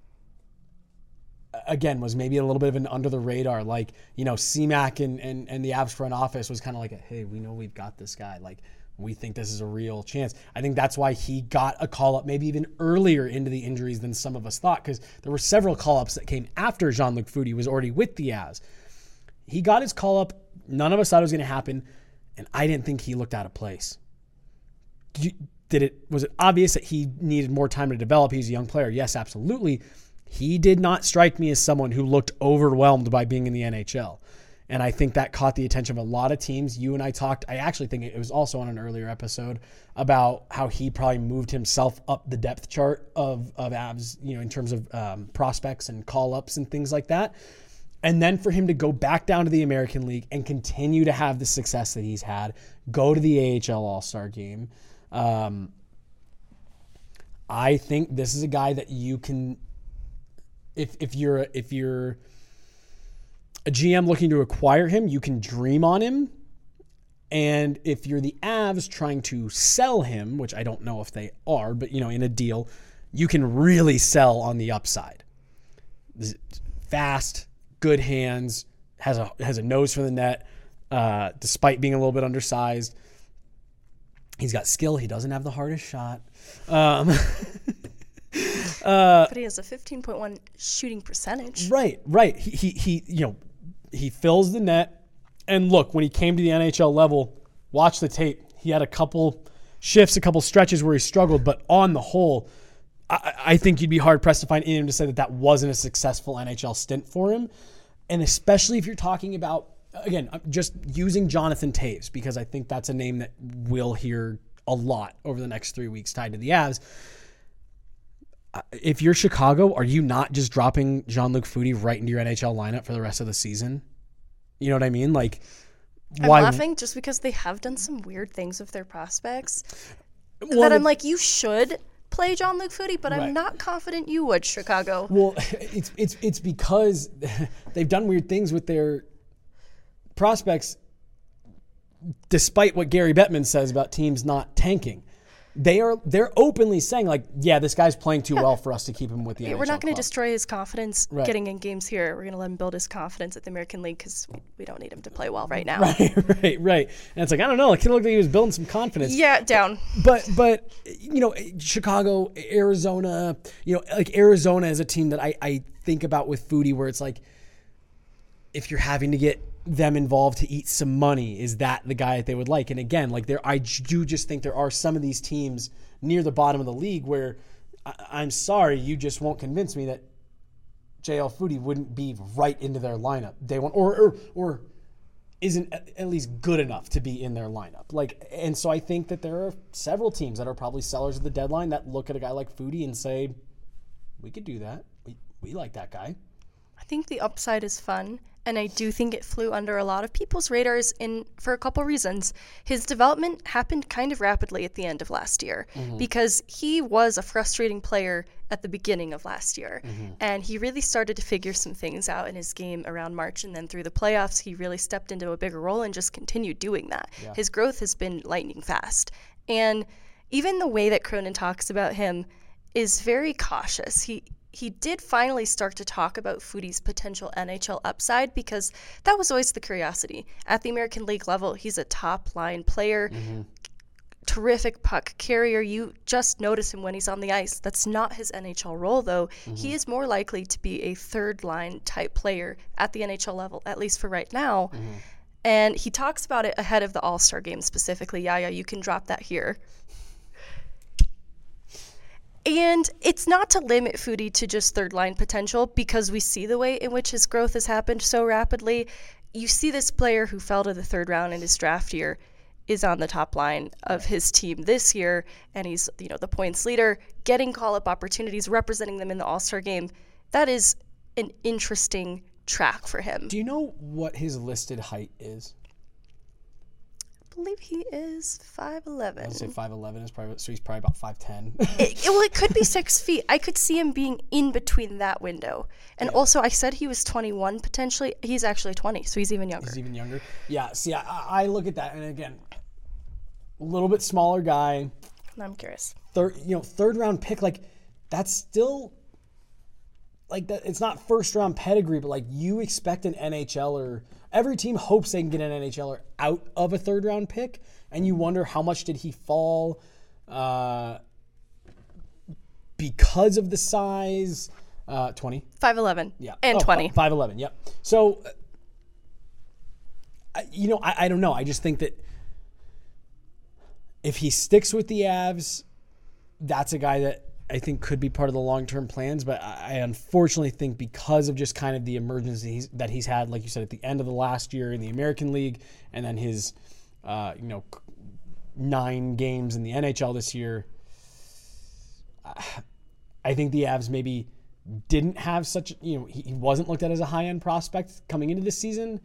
again, was maybe a little bit of an under the radar, like, you know, CMAC and the Avs front office was kind of like, hey, we know we've got this guy. Like, we think this is a real chance. I think that's why he got a call-up maybe even earlier into the injuries than some of us thought, because there were several call-ups that came after Jean-Luc Foudy was already with the Avs. He got his call-up. None of us thought it was going to happen, and I didn't think he looked out of place. Was it obvious that he needed more time to develop? He's a young player. Yes, absolutely. He did not strike me as someone who looked overwhelmed by being in the NHL. And I think that caught the attention of a lot of teams. You and I talked, I actually think it was also on an earlier episode, about how he probably moved himself up the depth chart of Avs, you know, in terms of prospects and call-ups and things like that. And then for him to go back down to the American League and continue to have the success that he's had, go to the AHL All-Star game. I think this is a guy that you can, if you're a GM looking to acquire him, you can dream on him. And if you're the Avs trying to sell him, which I don't know if they are, but, you know, in a deal, you can really sell on the upside. Fast, good hands, has a nose for the net, despite being a little bit undersized. He's got skill. He doesn't have the hardest shot. But he has a 15.1 shooting percentage. Right. He you know, he fills the net. And look, when he came to the NHL level, watch the tape. He had a couple shifts, a couple stretches where he struggled, but on the whole, I think you'd be hard pressed to find anyone to say that wasn't a successful NHL stint for him. And especially if you're talking about, again, I'm just using Jonathan Toews, because I think that's a name that we'll hear a lot over the next 3 weeks tied to the Avs. If you're Chicago, are you not just dropping Jean-Luc Foudy right into your NHL lineup for the rest of the season? You know what I mean? Like, why? I'm laughing just because they have done some weird things with their prospects that I'm like, you should play Jean-Luc Foudy, but I'm not confident you would, Chicago. Well, it's because they've done weird things with their prospects, despite what Gary Bettman says about teams not tanking. They're openly saying, like, yeah, this guy's playing too well for us to keep him with the NHL. We're not going to destroy his confidence getting in games here. We're going to let him build his confidence at the American League because we don't need him to play well right now. Right. And it's like, I don't know. It kind of looked like he was building some confidence. Yeah, down. But you know, Chicago, Arizona, you know, like Arizona is a team that I think about with Foudy, where it's like, if you're having to get them involved to eat some money, is that the guy that they would like? And again, like, I do just think there are some of these teams near the bottom of the league where I'm sorry, you just won't convince me that JL Foudy wouldn't be right into their lineup day one, or isn't at least good enough to be in their lineup. Like, and so I think that there are several teams that are probably sellers at the deadline that look at a guy like Foudy and say, we could do that. We like that guy. I think the upside is fun. And I do think it flew under a lot of people's radars for a couple reasons. His development happened kind of rapidly at the end of last year because he was a frustrating player at the beginning of last year. And he really started to figure some things out in his game around March. And then through the playoffs, he really stepped into a bigger role and just continued doing that. Yeah. His growth has been lightning fast. And even the way that Cronin talks about him is very cautious. he did finally start to talk about Foodie's potential NHL upside, because that was always the curiosity. At the American League level, he's a top-line player, terrific puck carrier. You just notice him when he's on the ice. That's not his NHL role, though. He is more likely to be a third-line type player at the NHL level, at least for right now. And he talks about it ahead of the All-Star game specifically. Yeah, you can drop that here. And it's not to limit Foodie to just third-line potential, because we see the way in which his growth has happened so rapidly. You see this player who fell to the third round in his draft year is on the top line of his team this year, and he's the points leader, getting call-up opportunities, representing them in the All-Star game. That is an interesting track for him. Do you know what his listed height is? I believe he is 5'11". I would say 5'11" is probably, so he's probably about 5'10". It could be 6 feet. I could see him being in between that window. And also, I said he was 21 potentially. He's actually 20, so he's even younger. He's even younger. Yeah, see, I look at that, and again, a little bit smaller guy. I'm curious. Third round pick, like, that's still, like, that. It's not first round pedigree, but like, you expect an NHLer. Every team hopes they can get an NHLer out of a third round pick, and you wonder how much did he fall because of the size. 20? 5'11". Yeah. And 20. 5'11", yep. So, I don't know. I just think that if he sticks with the Avs, that's a guy that I think could be part of the long-term plans, but I unfortunately think because of just kind of the emergency that he's had, like you said, at the end of the last year in the American League, and then his, 9 games in the NHL this year, I think the Avs maybe didn't have such, he wasn't looked at as a high-end prospect coming into this season.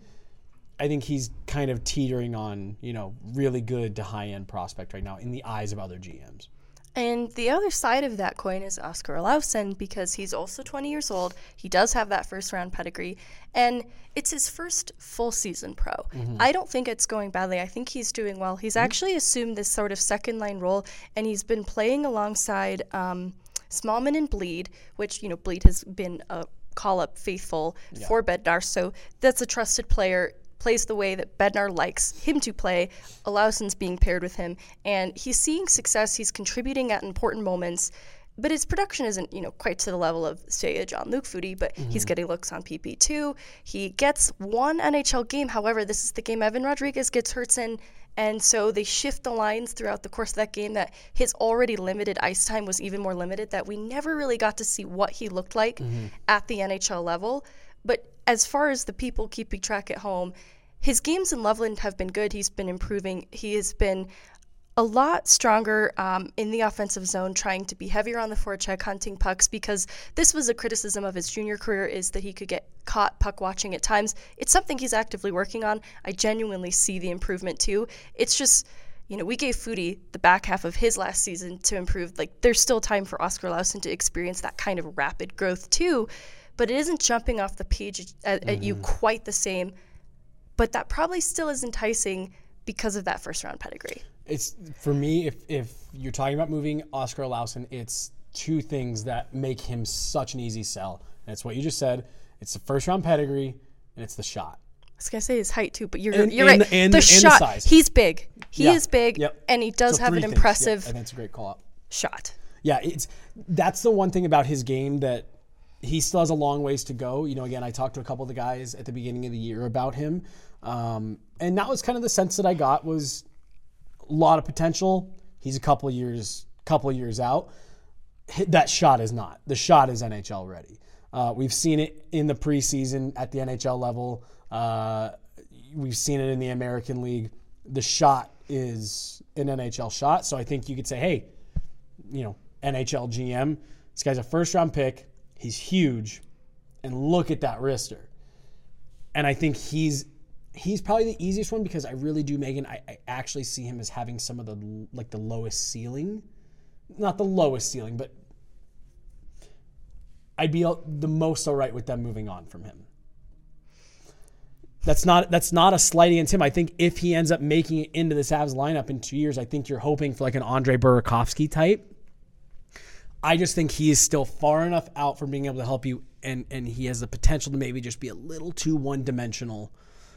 I think he's kind of teetering on, really good to high-end prospect right now in the eyes of other GMs. And the other side of that coin is Oskar Olausson, because he's also 20 years old. He does have that first-round pedigree, and it's his first full season pro. I don't think it's going badly. I think he's doing well. He's actually assumed this sort of second-line role, and he's been playing alongside Smallman and Bleed, which, Bleed has been a call-up faithful for Bednar, so that's a trusted player. Plays the way that Bednar likes him to play. Olausson's being paired with him, and he's seeing success. He's contributing at important moments, but his production isn't, quite to the level of, say, a Jean-Luc Foodie, but he's getting looks on PP2. He gets one NHL game. However, this is the game Evan Rodriguez gets hurt in, and so they shift the lines throughout the course of that game, that his already limited ice time was even more limited, that we never really got to see what he looked like at the NHL level. But as far as the people keeping track at home, his games in Loveland have been good. He's been improving. He has been a lot stronger in the offensive zone, trying to be heavier on the forecheck, hunting pucks, because this was a criticism of his junior career, is that he could get caught puck watching at times. It's something he's actively working on. I genuinely see the improvement too. It's just, we gave Foodie the back half of his last season to improve. Like, there's still time for Oskar Olausson to experience that kind of rapid growth too, but it isn't jumping off the page at you quite the same. But that probably still is enticing because of that first-round pedigree. It's, for me, if you're talking about moving Oskar Olausson, it's two things that make him such an easy sell. And it's what you just said. It's the first-round pedigree, and it's the shot. I was going to say his height, too, but you're right. The shot, the size. He's big. He is big, and he does have an impressive and that's a great call-out. Shot. Yeah, that's the one thing about his game that he still has a long ways to go. Again, I talked to a couple of the guys at the beginning of the year about him. And that was kind of the sense that I got, was a lot of potential. He's a couple of years out. That shot is not. The shot is NHL ready. We've seen it in the preseason at the NHL level. We've seen it in the American League. The shot is an NHL shot. So I think you could say, hey, NHL GM, this guy's a first-round pick. He's huge, and look at that wrister. And I think he's probably the easiest one, because I really do, Megan, I actually see him as having some of the lowest ceiling. Not the lowest ceiling, but I'd be the most all right with them moving on from him. That's not a slight against him. I think if he ends up making it into this Avs lineup in 2 years, I think you're hoping for like an Andre Burakovsky type. I just think he is still far enough out from being able to help you, and he has the potential to maybe just be a little too one-dimensional,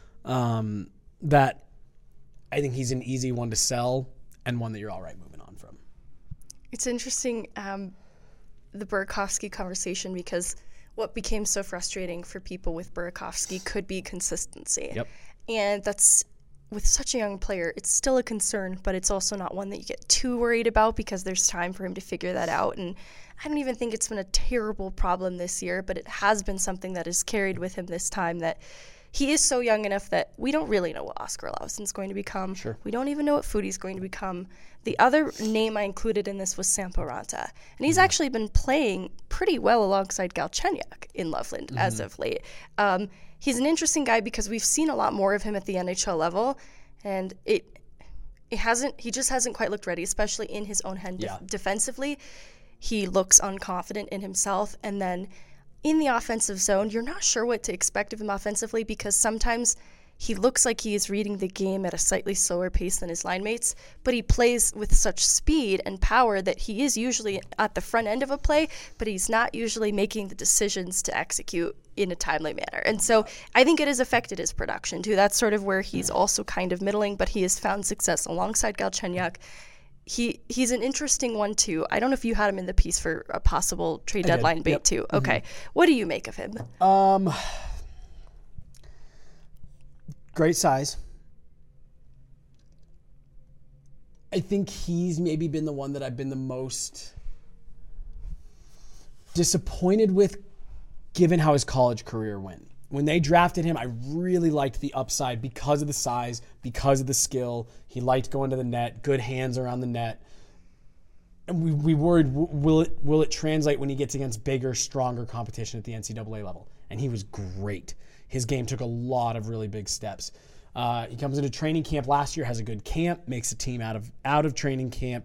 that I think he's an easy one to sell and one that you're all right moving on from. It's interesting, the Burakovsky conversation, because what became so frustrating for people with Burakovsky could be consistency. Yep. And that's, with such a young player, it's still a concern, but it's also not one that you get too worried about because there's time for him to figure that out. And I don't even think it's been a terrible problem this year, but it has been something that is carried with him this time, that he is so young enough that we don't really know what Oskar Olausson's going to become. Sure. We don't even know what Foudy's going to become. The other name I included in this was Sampo Ranta, and he's actually been playing pretty well alongside Galchenyuk in Loveland as of late. He's an interesting guy because we've seen a lot more of him at the NHL level, and he just hasn't quite looked ready, especially in his own end defensively. He looks unconfident in himself, and then in the offensive zone, you're not sure what to expect of him offensively because sometimes he looks like he is reading the game at a slightly slower pace than his line mates, but he plays with such speed and power that he is usually at the front end of a play, but he's not usually making the decisions to execute in a timely manner. And so I think it has affected his production too. That's sort of where he's also kind of middling, but he has found success alongside Galchenyuk. He's an interesting one too. I don't know if you had him in the piece for a possible trade deadline bait too. Okay. What do you make of him? Great size. I think he's maybe been the one that I've been the most disappointed with given how his college career went. When they drafted him, I really liked the upside because of the size, because of the skill. He liked going to the net, good hands around the net. And we worried, will it translate when he gets against bigger, stronger competition at the NCAA level? And he was great. His game took a lot of really big steps. He comes into training camp last year, has a good camp, makes the team out of training camp.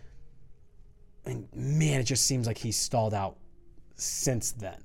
And man, it just seems like he's stalled out since then.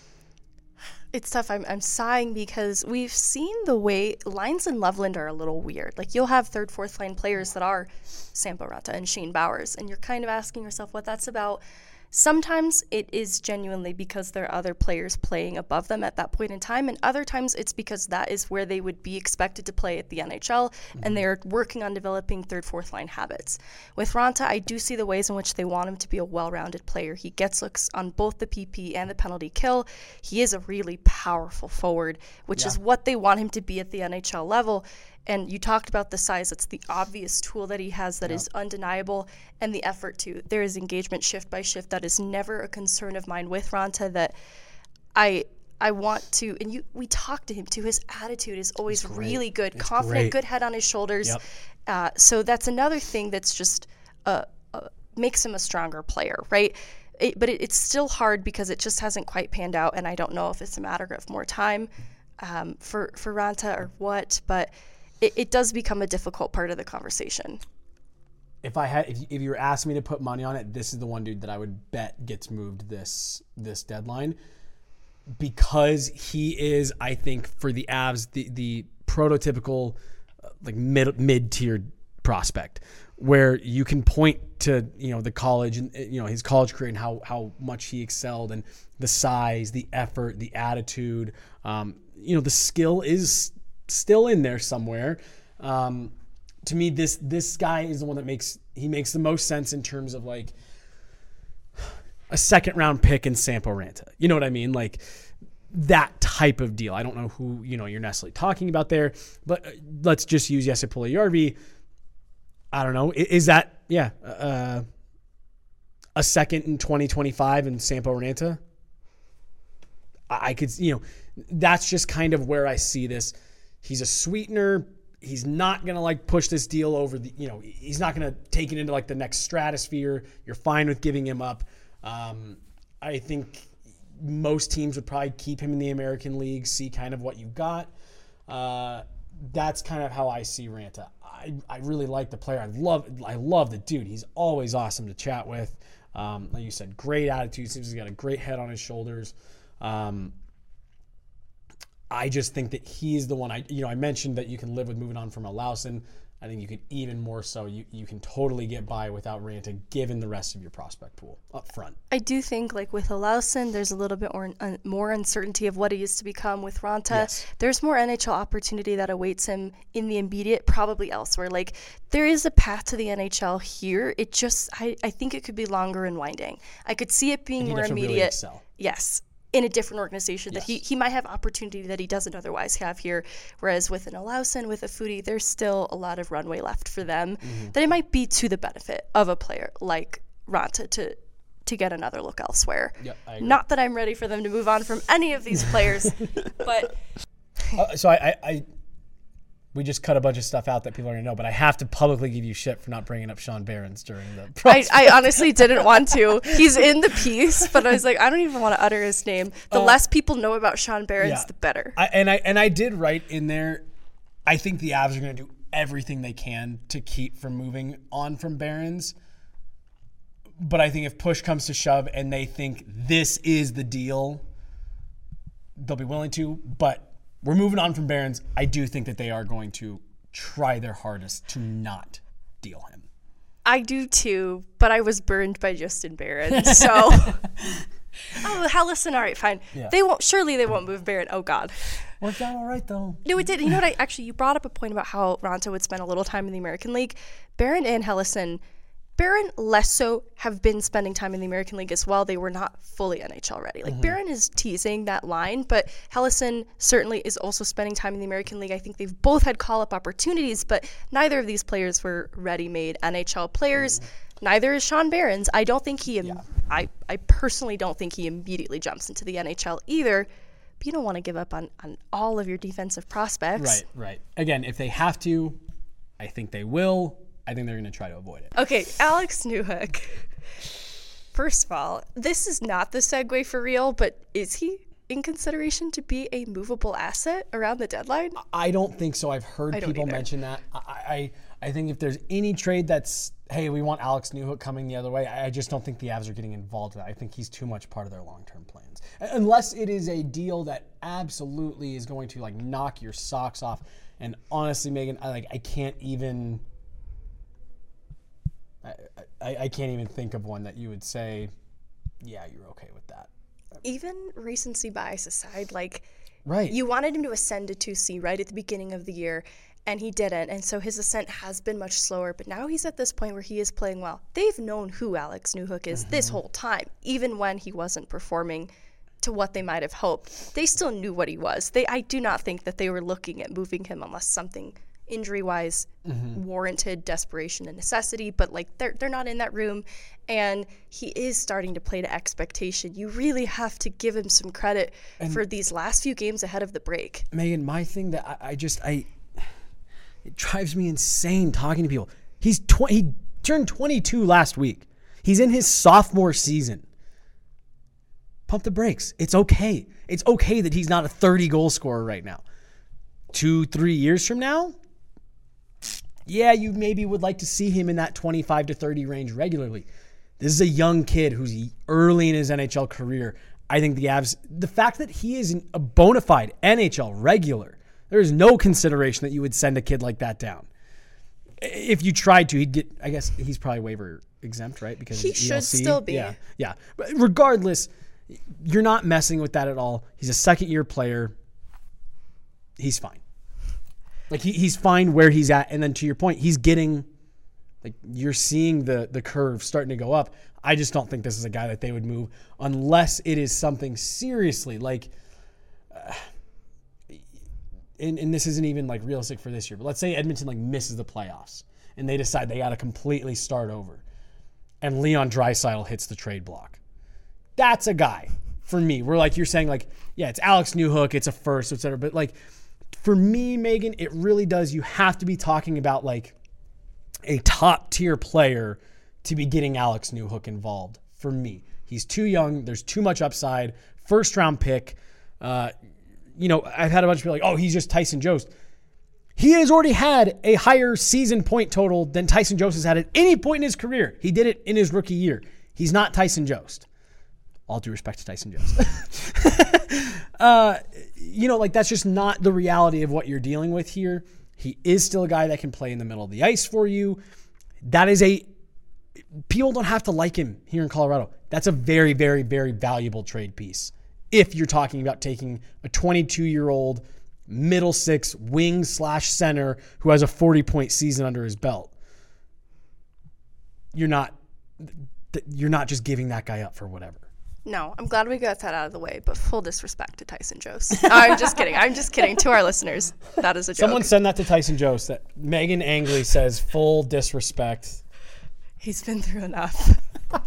It's tough. I'm sighing because we've seen the way lines in Loveland are a little weird. Like, you'll have third, fourth line players that are Sampo Ranta and Shane Bowers, and you're kind of asking yourself what that's about. Sometimes it is genuinely because there are other players playing above them at that point in time, and other times it's because that is where they would be expected to play at the NHL, and they're working on developing third, fourth line habits. With Ranta, I do see the ways in which they want him to be a well-rounded player. He gets looks on both the PP and the penalty kill. He is a really powerful forward, which is what they want him to be at the NHL level. And you talked about the size. It's the obvious tool that he has that is undeniable, and the effort too. There is engagement shift by shift that is never a concern of mine with Ranta that I want to, and we talk to him too. His attitude is always really good, it's confident, good head on his shoulders. So that's another thing that's just makes him a stronger player, right? But it's still hard because it just hasn't quite panned out, and I don't know if it's a matter of more time for Ranta or what, but it does become a difficult part of the conversation. If you were asking me to put money on it, this is the one dude that I would bet gets moved this deadline, because he is, I think, for the Avs, the prototypical like mid-tiered prospect, where you can point to the college and his college career and how much he excelled, and the size, the effort, the attitude, the skill is still in there somewhere. To me, this guy is the one that makes the most sense in terms of like a second round pick in Sampo Ranta. You know what I mean? Like that type of deal. I don't know who you're necessarily talking about there, but let's just use Jesse Puljujärvi. I don't know. Is that a second in 2025 in Sampo Ranta? I could, that's just kind of where I see this. He's a sweetener. He's not going to like push this deal over he's not going to take it into like the next stratosphere. You're fine with giving him up. I think most teams would probably keep him in the American League, see kind of what you got. That's kind of how I see Ranta. I really like the player. I love the dude. He's always awesome to chat with. Like you said, great attitude. Seems he's got a great head on his shoulders. I just think that he's the one. I mentioned that you can live with moving on from Olausson. I think you could even more so. You can totally get by without Raanta, given the rest of your prospect pool up front. I do think, like with Olausson, there's a little bit more uncertainty of what he is to become. With Raanta, Yes. there's more NHL opportunity that awaits him in the immediate, probably elsewhere. Like, there is a path to the NHL here. It just, I think it could be longer and winding. I could see it being And he'd more have to really immediate. excel. Yes. In a different organization that Yes. he might have opportunity that he doesn't otherwise have here. Whereas with an Olausson, with a Foudy, there's still a lot of runway left for them that it might be to the benefit of a player like Raanta to get another look elsewhere. Yep, I agree. Not that I'm ready for them to move on from any of these players, but So we just cut a bunch of stuff out that people are going to know, but I have to publicly give you shit for not bringing up Sean Behrens during the I honestly didn't want to. He's in the piece, but I was like, I don't even want to utter his name. The less people know about Sean Behrens, the better. I did write in there, I think the Avs are going to do everything they can to keep from moving on from Behrens. But I think if push comes to shove and they think this is the deal, they'll be willing to. But we're moving on from Behrens. I do think that they are going to try their hardest to not deal him. I do too, but I was burned by Justin Barron. So, Helleson, all right, fine. Yeah. They won't move Barron. Oh God. Worked out all right though. No, it did. You know what? You brought up a point about how Raanta would spend a little time in the American League. Barron and Helleson, Barron less so have been spending time in the American League as well. They were not fully NHL ready. Like Barron is teasing that line, but Helleson certainly is also spending time in the American League. I think they've both had call-up opportunities, but neither of these players were ready-made NHL players. Neither is Sean Behrens. I don't think I personally don't think he immediately jumps into the NHL either. But you don't want to give up on all of your defensive prospects. Right. Again, if they have to, I think they will. I think they're going to try to avoid it. Okay, Alex Newhook. First of all, this is not the segue for real, but is he in consideration to be a movable asset around the deadline? I don't think so. I've heard people mention that. I think if there's any trade that's, hey, we want Alex Newhook coming the other way, I just don't think the Avs are getting involved in that. I think he's too much part of their long-term plans. Unless it is a deal that absolutely is going to like knock your socks off. And honestly, Megan, I can't even... I can't even think of one that you would say, yeah, you're okay with that. Even recency bias aside, right. You wanted him to ascend to 2C right at the beginning of the year, and he didn't, and so his ascent has been much slower, but now he's at this point where he is playing well. They've known who Alex Newhook is this whole time, even when he wasn't performing to what they might have hoped. They still knew what he was. I do not think that they were looking at moving him unless something injury-wise warranted desperation and necessity, but they're not in that room, and he is starting to play to expectation. You really have to give him some credit for these last few games ahead of the break. Megan, my thing that it drives me insane talking to people. He turned 22 last week. He's in his sophomore season. Pump the brakes. It's okay. It's okay that he's not a 30-goal scorer right now. 2-3 years from now, yeah, you maybe would like to see him in that 25 to 30 range regularly. This is a young kid who's early in his NHL career. I think the Avs, the fact that he is a bona fide NHL regular, there is no consideration that you would send a kid like that down. If you tried to, he'd get, I guess he's probably waiver exempt, right? Because he should still be. Yeah. But regardless, you're not messing with that at all. He's a second-year player. He's fine. He's fine where he's at. And then to your point, he's getting, you're seeing the curve starting to go up. I just don't think this is a guy that they would move unless it is something seriously and this isn't even realistic for this year, but let's say Edmonton misses the playoffs and they decide they got to completely start over and Leon Draisaitl hits the trade block. That's a guy for me. We're you're saying yeah, it's Alex Newhook, it's a first, et cetera. But for me, Megan, it really does. You have to be talking about a top tier player to be getting Alex Newhook involved. For me, he's too young. There's too much upside. First round pick. I've had a bunch of people oh, he's just Tyson Jost. He has already had a higher season point total than Tyson Jost has had at any point in his career. He did it in his rookie year. He's not Tyson Jost. All due respect to Tyson Jost. That's just not the reality of what you're dealing with here. He is still a guy that can play in the middle of the ice for you. People don't have to like him here in Colorado. That's a very, very, very valuable trade piece. If you're talking about taking a 22-year-old middle six wing/center who has a 40-point season under his belt, you're not just giving that guy up for whatever. No, I'm glad we got that out of the way, but full disrespect to Tyson Jost. I'm just kidding. I'm just kidding. To our listeners, that is a joke. Someone send that to Tyson Jost. That Megan Angley says full disrespect. He's been through enough.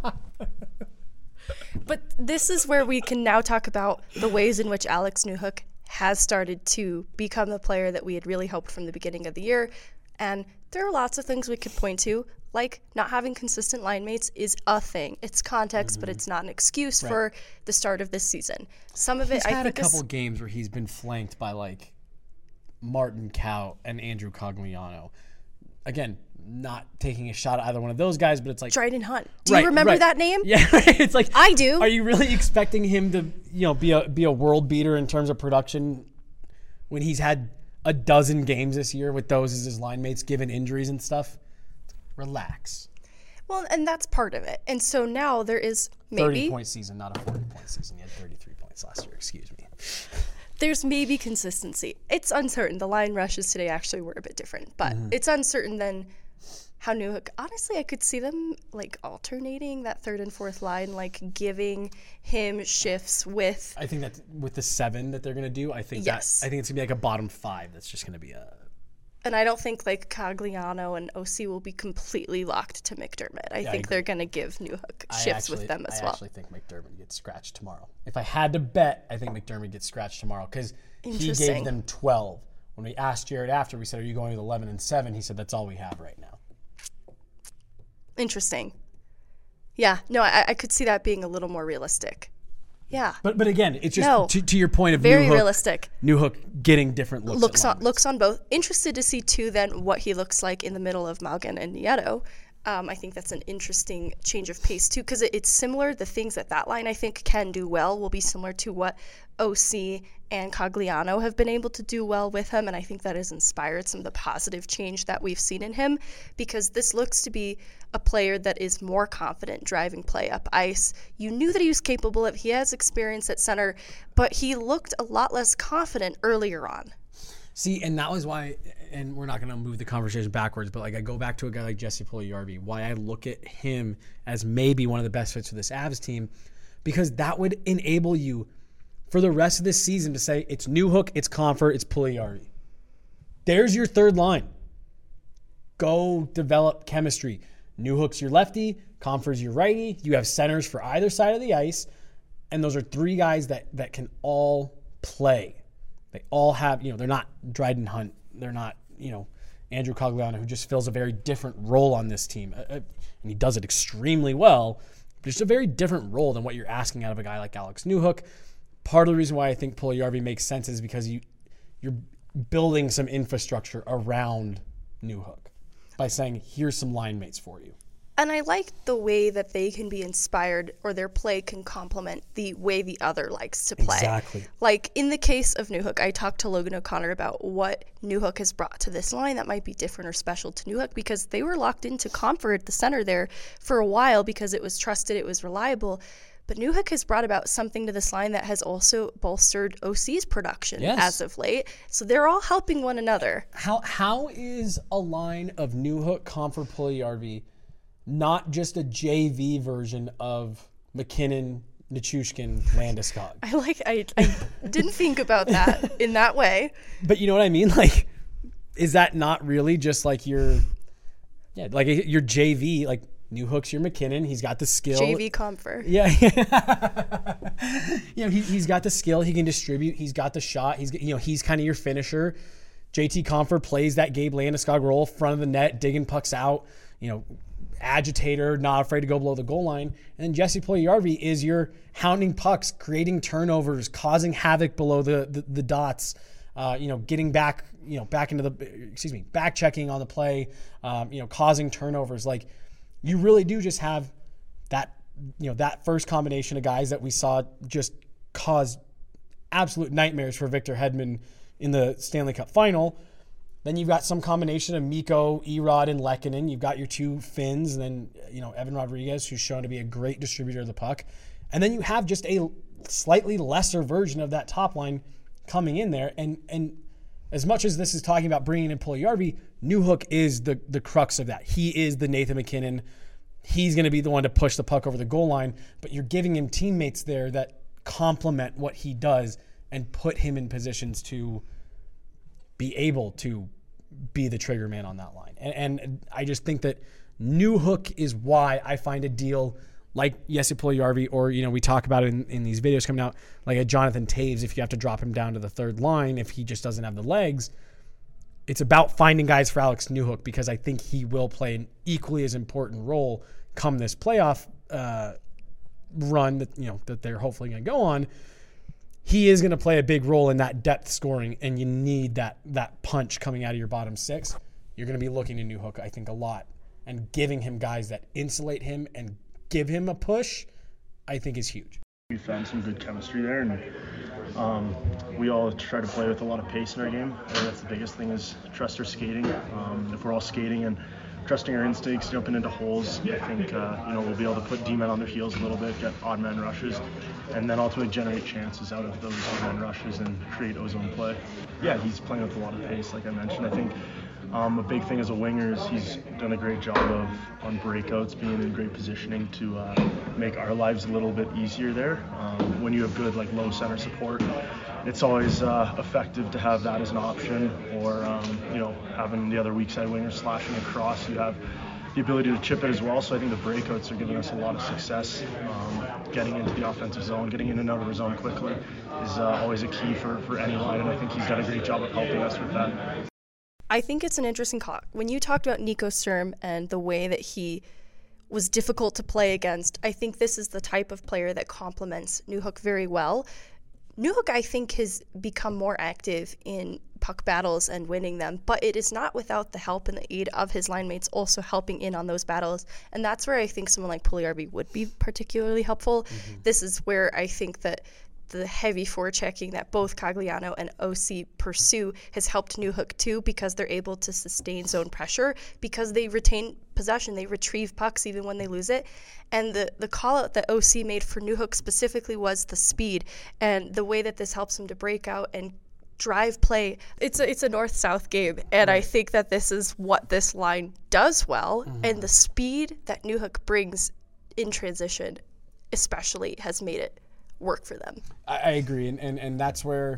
But this is where we can now talk about the ways in which Alex Newhook has started to become the player that we had really hoped from the beginning of the year. And there are lots of things we could point to, like not having consistent line mates is a thing. It's context, but it's not an excuse for the start of this season. Some of it, I think, had a couple games where he's been flanked by like Martin Kaut and Andrew Cogliano. Again, not taking a shot at either one of those guys, but it's like Dryden Hunt. Do you remember that name? Yeah, it's like I do. Are you really expecting him to, be a world beater in terms of production when he's had a dozen games this year with those as his line mates given injuries and stuff? Relax. Well, and that's part of it. And so now there is maybe 30-point season, not a 40-point season. He had 33 points last year. Excuse me. There's maybe consistency. It's uncertain. The line rushes today actually were a bit different, but it's uncertain than how Newhook. Honestly, I could see them like alternating that third and fourth line, like giving him shifts with. I think that with the 7 that they're going to do, I think it's going to be like a bottom 5. That's just going to be a. And I don't think like Cogliano and OC will be completely locked to McDermott. I think they're going to give Newhook shifts with them as well. I actually think McDermott gets scratched tomorrow. If I had to bet, I think McDermott gets scratched tomorrow because he gave them 12. When we asked Jared after, we said, "Are you going with 11 and 7?" He said, "That's all we have right now." Interesting. Yeah, no, I could see that being a little more realistic. Yeah. But again, it's just to your point of very realistic. Newhook getting different looks on both. Interested to see too then what he looks like in the middle of Malgin and Nieto. I think that's an interesting change of pace too, because it's similar. The things that line I think can do well will be similar to what OC and Cogliano have been able to do well with him, and I think that has inspired some of the positive change that we've seen in him, because this looks to be a player that is more confident driving play up ice. You knew that he was capable of. He has experience at center, but he looked a lot less confident earlier on. See, and that was why, and we're not going to move the conversation backwards, but like I go back to a guy like Jesse Puljujarvi, why I look at him as maybe one of the best fits for this Avs team, because that would enable you for the rest of this season to say it's Newhook, it's Compher, it's Puljujarvi. There's your third line. Go develop chemistry. Newhook's your lefty, Compher's your righty. You have centers for either side of the ice, and those are 3 guys that can all play. They all have, they're not Dryden Hunt. They're not, Andrew Cogliano, who just fills a very different role on this team. And he does it extremely well, but it's a very different role than what you're asking out of a guy like Alex Newhook. Part of the reason why I think Puljujarvi makes sense is because you're building some infrastructure around Newhook by saying, here's some line mates for you. And I like the way that they can be inspired, or their play can complement the way the other likes to play. Exactly. Like in the case of Newhook, I talked to Logan O'Connor about what Newhook has brought to this line that might be different or special to Newhook, because they were locked into Compher at the center there for a while because it was trusted, it was reliable. But Newhook has brought about something to this line that has also bolstered OC's production as of late. So they're all helping one another. How is a line of Newhook, Compher, Puljujarvi not just a JV version of McKinnon, Nichushkin, Landeskog? I didn't think about that in that way. But you know what I mean? Like, is that not really just like your JV? Like, Newhook's your McKinnon. He's got the skill. JV Compher. Yeah. He's got the skill. He can distribute. He's got the shot. He's kind of your finisher. JT Compher plays that Gabe Landeskog role, front of the net, digging pucks out, agitator, not afraid to go below the goal line. And then Jesse Puljujarvi is your hounding pucks, creating turnovers, causing havoc below the dots, getting back, back into back checking on the play, causing turnovers. Like, you really do just have that, that first combination of guys that we saw just cause absolute nightmares for Victor Hedman in the Stanley Cup final. Then you've got some combination of Mikko, Erod, and Lehkonen. You've got your two Finns, and then Evan Rodriguez, who's shown to be a great distributor of the puck. And then you have just a slightly lesser version of that top line coming in there. And as much as this is talking about bringing in Puljujarvi, Newhook is the crux of that. He is the Nathan MacKinnon. He's going to be the one to push the puck over the goal line, but you're giving him teammates there that complement what he does and put him in positions to be able to be the trigger man on that line. And I just think that Newhook is why I find a deal like Jesse Puljujarvi, or, we talk about it in these videos coming out, like a Jonathan Toews, if you have to drop him down to the third line, if he just doesn't have the legs. It's about finding guys for Alex Newhook, because I think he will play an equally as important role come this playoff run that they're hopefully going to go on. He is going to play a big role in that depth scoring, and you need that punch coming out of your bottom six. You're going to be looking to Newhook, I think, a lot, and giving him guys that insulate him and give him a push, I think is huge. We found some good chemistry there, and we all try to play with a lot of pace in our game. I think that's the biggest thing, is trust our skating. If we're all skating and trusting our instincts, jumping into holes, I think we'll be able to put D-men on their heels a little bit, get odd man rushes, and then ultimately generate chances out of those odd man rushes and create ozone play. Yeah, he's playing with a lot of pace, like I mentioned. I think a big thing as a winger is he's done a great job on breakouts, being in great positioning to make our lives a little bit easier there. When you have good low center support, it's always effective to have that as an option, or having the other weak side winger slashing across. You have the ability to chip it as well. So I think the breakouts are giving us a lot of success. Getting into the offensive zone, getting in and out of our zone quickly is always a key for any line, and I think he's done a great job of helping us with that. I think it's an interesting call. When you talked about Nico Sturm and the way that he was difficult to play against, I think this is the type of player that complements Newhook very well. Newhook, I think, has become more active in puck battles and winning them, but it is not without the help and the aid of his line mates also helping in on those battles. And that's where I think someone like Puljujarvi would be particularly helpful. Mm-hmm. This is where I think that the heavy forechecking that both Cogliano and OC pursue has helped Newhook too, because they're able to sustain zone pressure, because they retain possession, they retrieve pucks even when they lose it. And the call out that OC made for Newhook specifically was the speed and the way that this helps him to break out and drive play. It's a north-south game, and I think that this is what this line does well, and the speed that Newhook brings in transition especially has made it work for them. I agree, and that's where,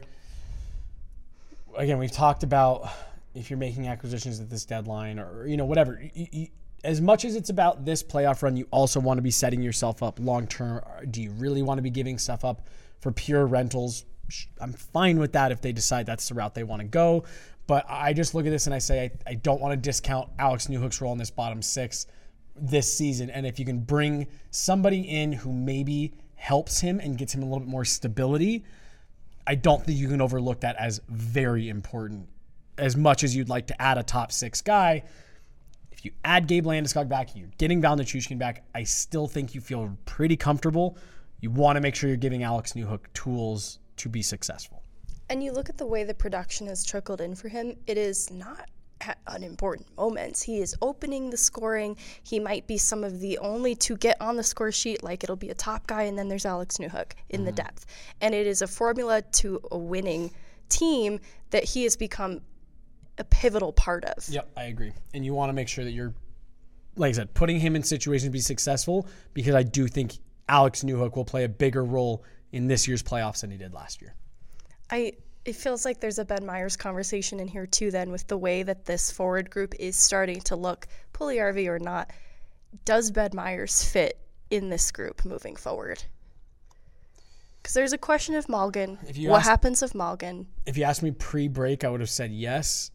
again, we've talked about if you're making acquisitions at this deadline or whatever, as much as it's about this playoff run, you also want to be setting yourself up long term. Do you really want to be giving stuff up for pure rentals? I'm fine with that if they decide that's the route they want to go, but I just look at this and I say I don't want to discount Alex Newhook's role in this bottom six this season, and if you can bring somebody in who maybe helps him and gets him a little bit more stability, I don't think you can overlook that as very important. As much as you'd like to add a top six guy, if you add Gabe Landeskog back, you're getting Val Nichushkin back, I still think you feel pretty comfortable. You want to make sure you're giving Alex Newhook tools to be successful. And you look at the way the production has trickled in for him, it is not at unimportant moments. He is opening the scoring. He might be some of the only to get on the score sheet, like it'll be a top guy, and then there's Alex Newhook in the depth. And it is a formula to a winning team that he has become a pivotal part of. Yep, I agree. And you want to make sure that you're, like I said, putting him in situations to be successful, because I do think Alex Newhook will play a bigger role in this year's playoffs than he did last year. It feels like there's a Ben Meyers conversation in here too then, with the way that this forward group is starting to look, Puljujarvi or not. Does Ben Meyers fit in this group moving forward? Because there's a question of Malgin. What happens if Malgin? If you asked me pre-break, I would have said yes.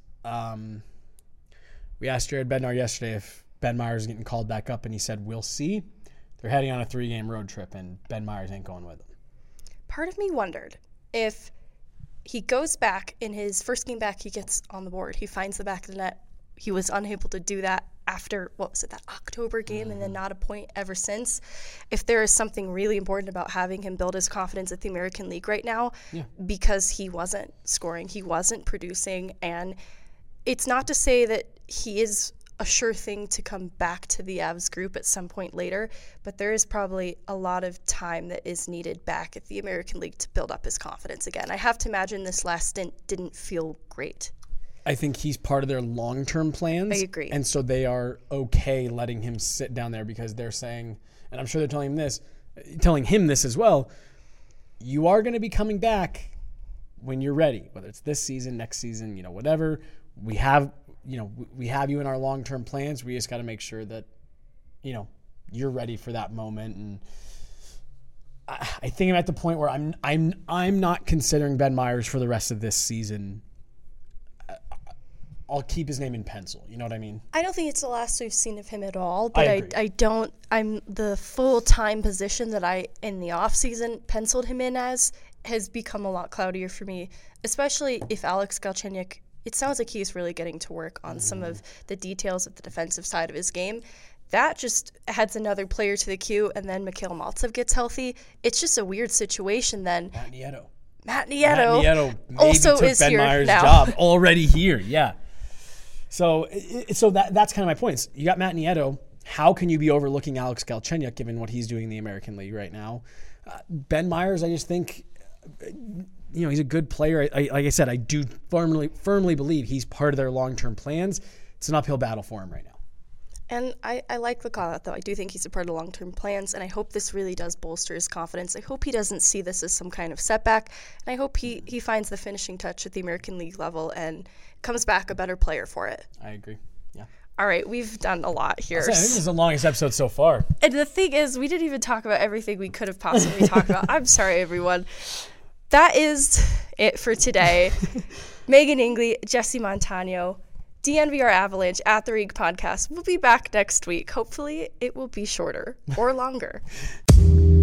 We asked Jared Bednar yesterday if Ben Meyers is getting called back up, and he said, we'll see. They're heading on a 3-game road trip, and Ben Meyers ain't going with them. Part of me wondered if he goes back in his first game back, he gets on the board. He finds the back of the net. He was unable to do that after, that October game, and then not a point ever since. If there is something really important about having him build his confidence at the American League right now, because he wasn't scoring, he wasn't producing, and it's not to say that he is a sure thing to come back to the Avs group at some point later, but there is probably a lot of time that is needed back at the American League to build up his confidence again. I have to imagine this last stint didn't feel great. I think he's part of their long-term plans. I agree. And so they are okay letting him sit down there because they're saying, and I'm sure they're telling him this as well, you are going to be coming back when you're ready, whether it's this season, next season, whatever. We have you in our long-term plans. We just got to make sure that, you're ready for that moment. And I think I'm at the point where I'm not considering Ben Meyers for the rest of this season. I'll keep his name in pencil. You know what I mean? I don't think it's the last we've seen of him at all, but I'm the full-time position that I, in the offseason, penciled him in as has become a lot cloudier for me, especially if Alex Galchenyuk, it sounds like he's really getting to work on some of the details of the defensive side of his game. That just adds another player to the queue, and then Mikhail Maltsev gets healthy. It's just a weird situation then. Matt Nieto also took is Ben here Meyers' now. job already here, yeah. So that's kind of my point. You got Matt Nieto. How can you be overlooking Alex Galchenyuk given what he's doing in the American League right now? Ben Meyers, I just think, he's a good player. Like I said, I do firmly believe he's part of their long-term plans. It's an uphill battle for him right now. And I like the call out, though. I do think he's a part of the long-term plans, and I hope this really does bolster his confidence. I hope he doesn't see this as some kind of setback, and I hope he finds the finishing touch at the American League level and comes back a better player for it. I agree. Yeah. All right, we've done a lot here. I think this is the longest episode so far. And the thing is, we didn't even talk about everything we could have possibly talked about. I'm sorry, everyone. That is it for today. Megan Ingley, Jesse Montano, DNVR Avalanche at the Rink Podcast. We'll be back next week. Hopefully, it will be shorter or longer.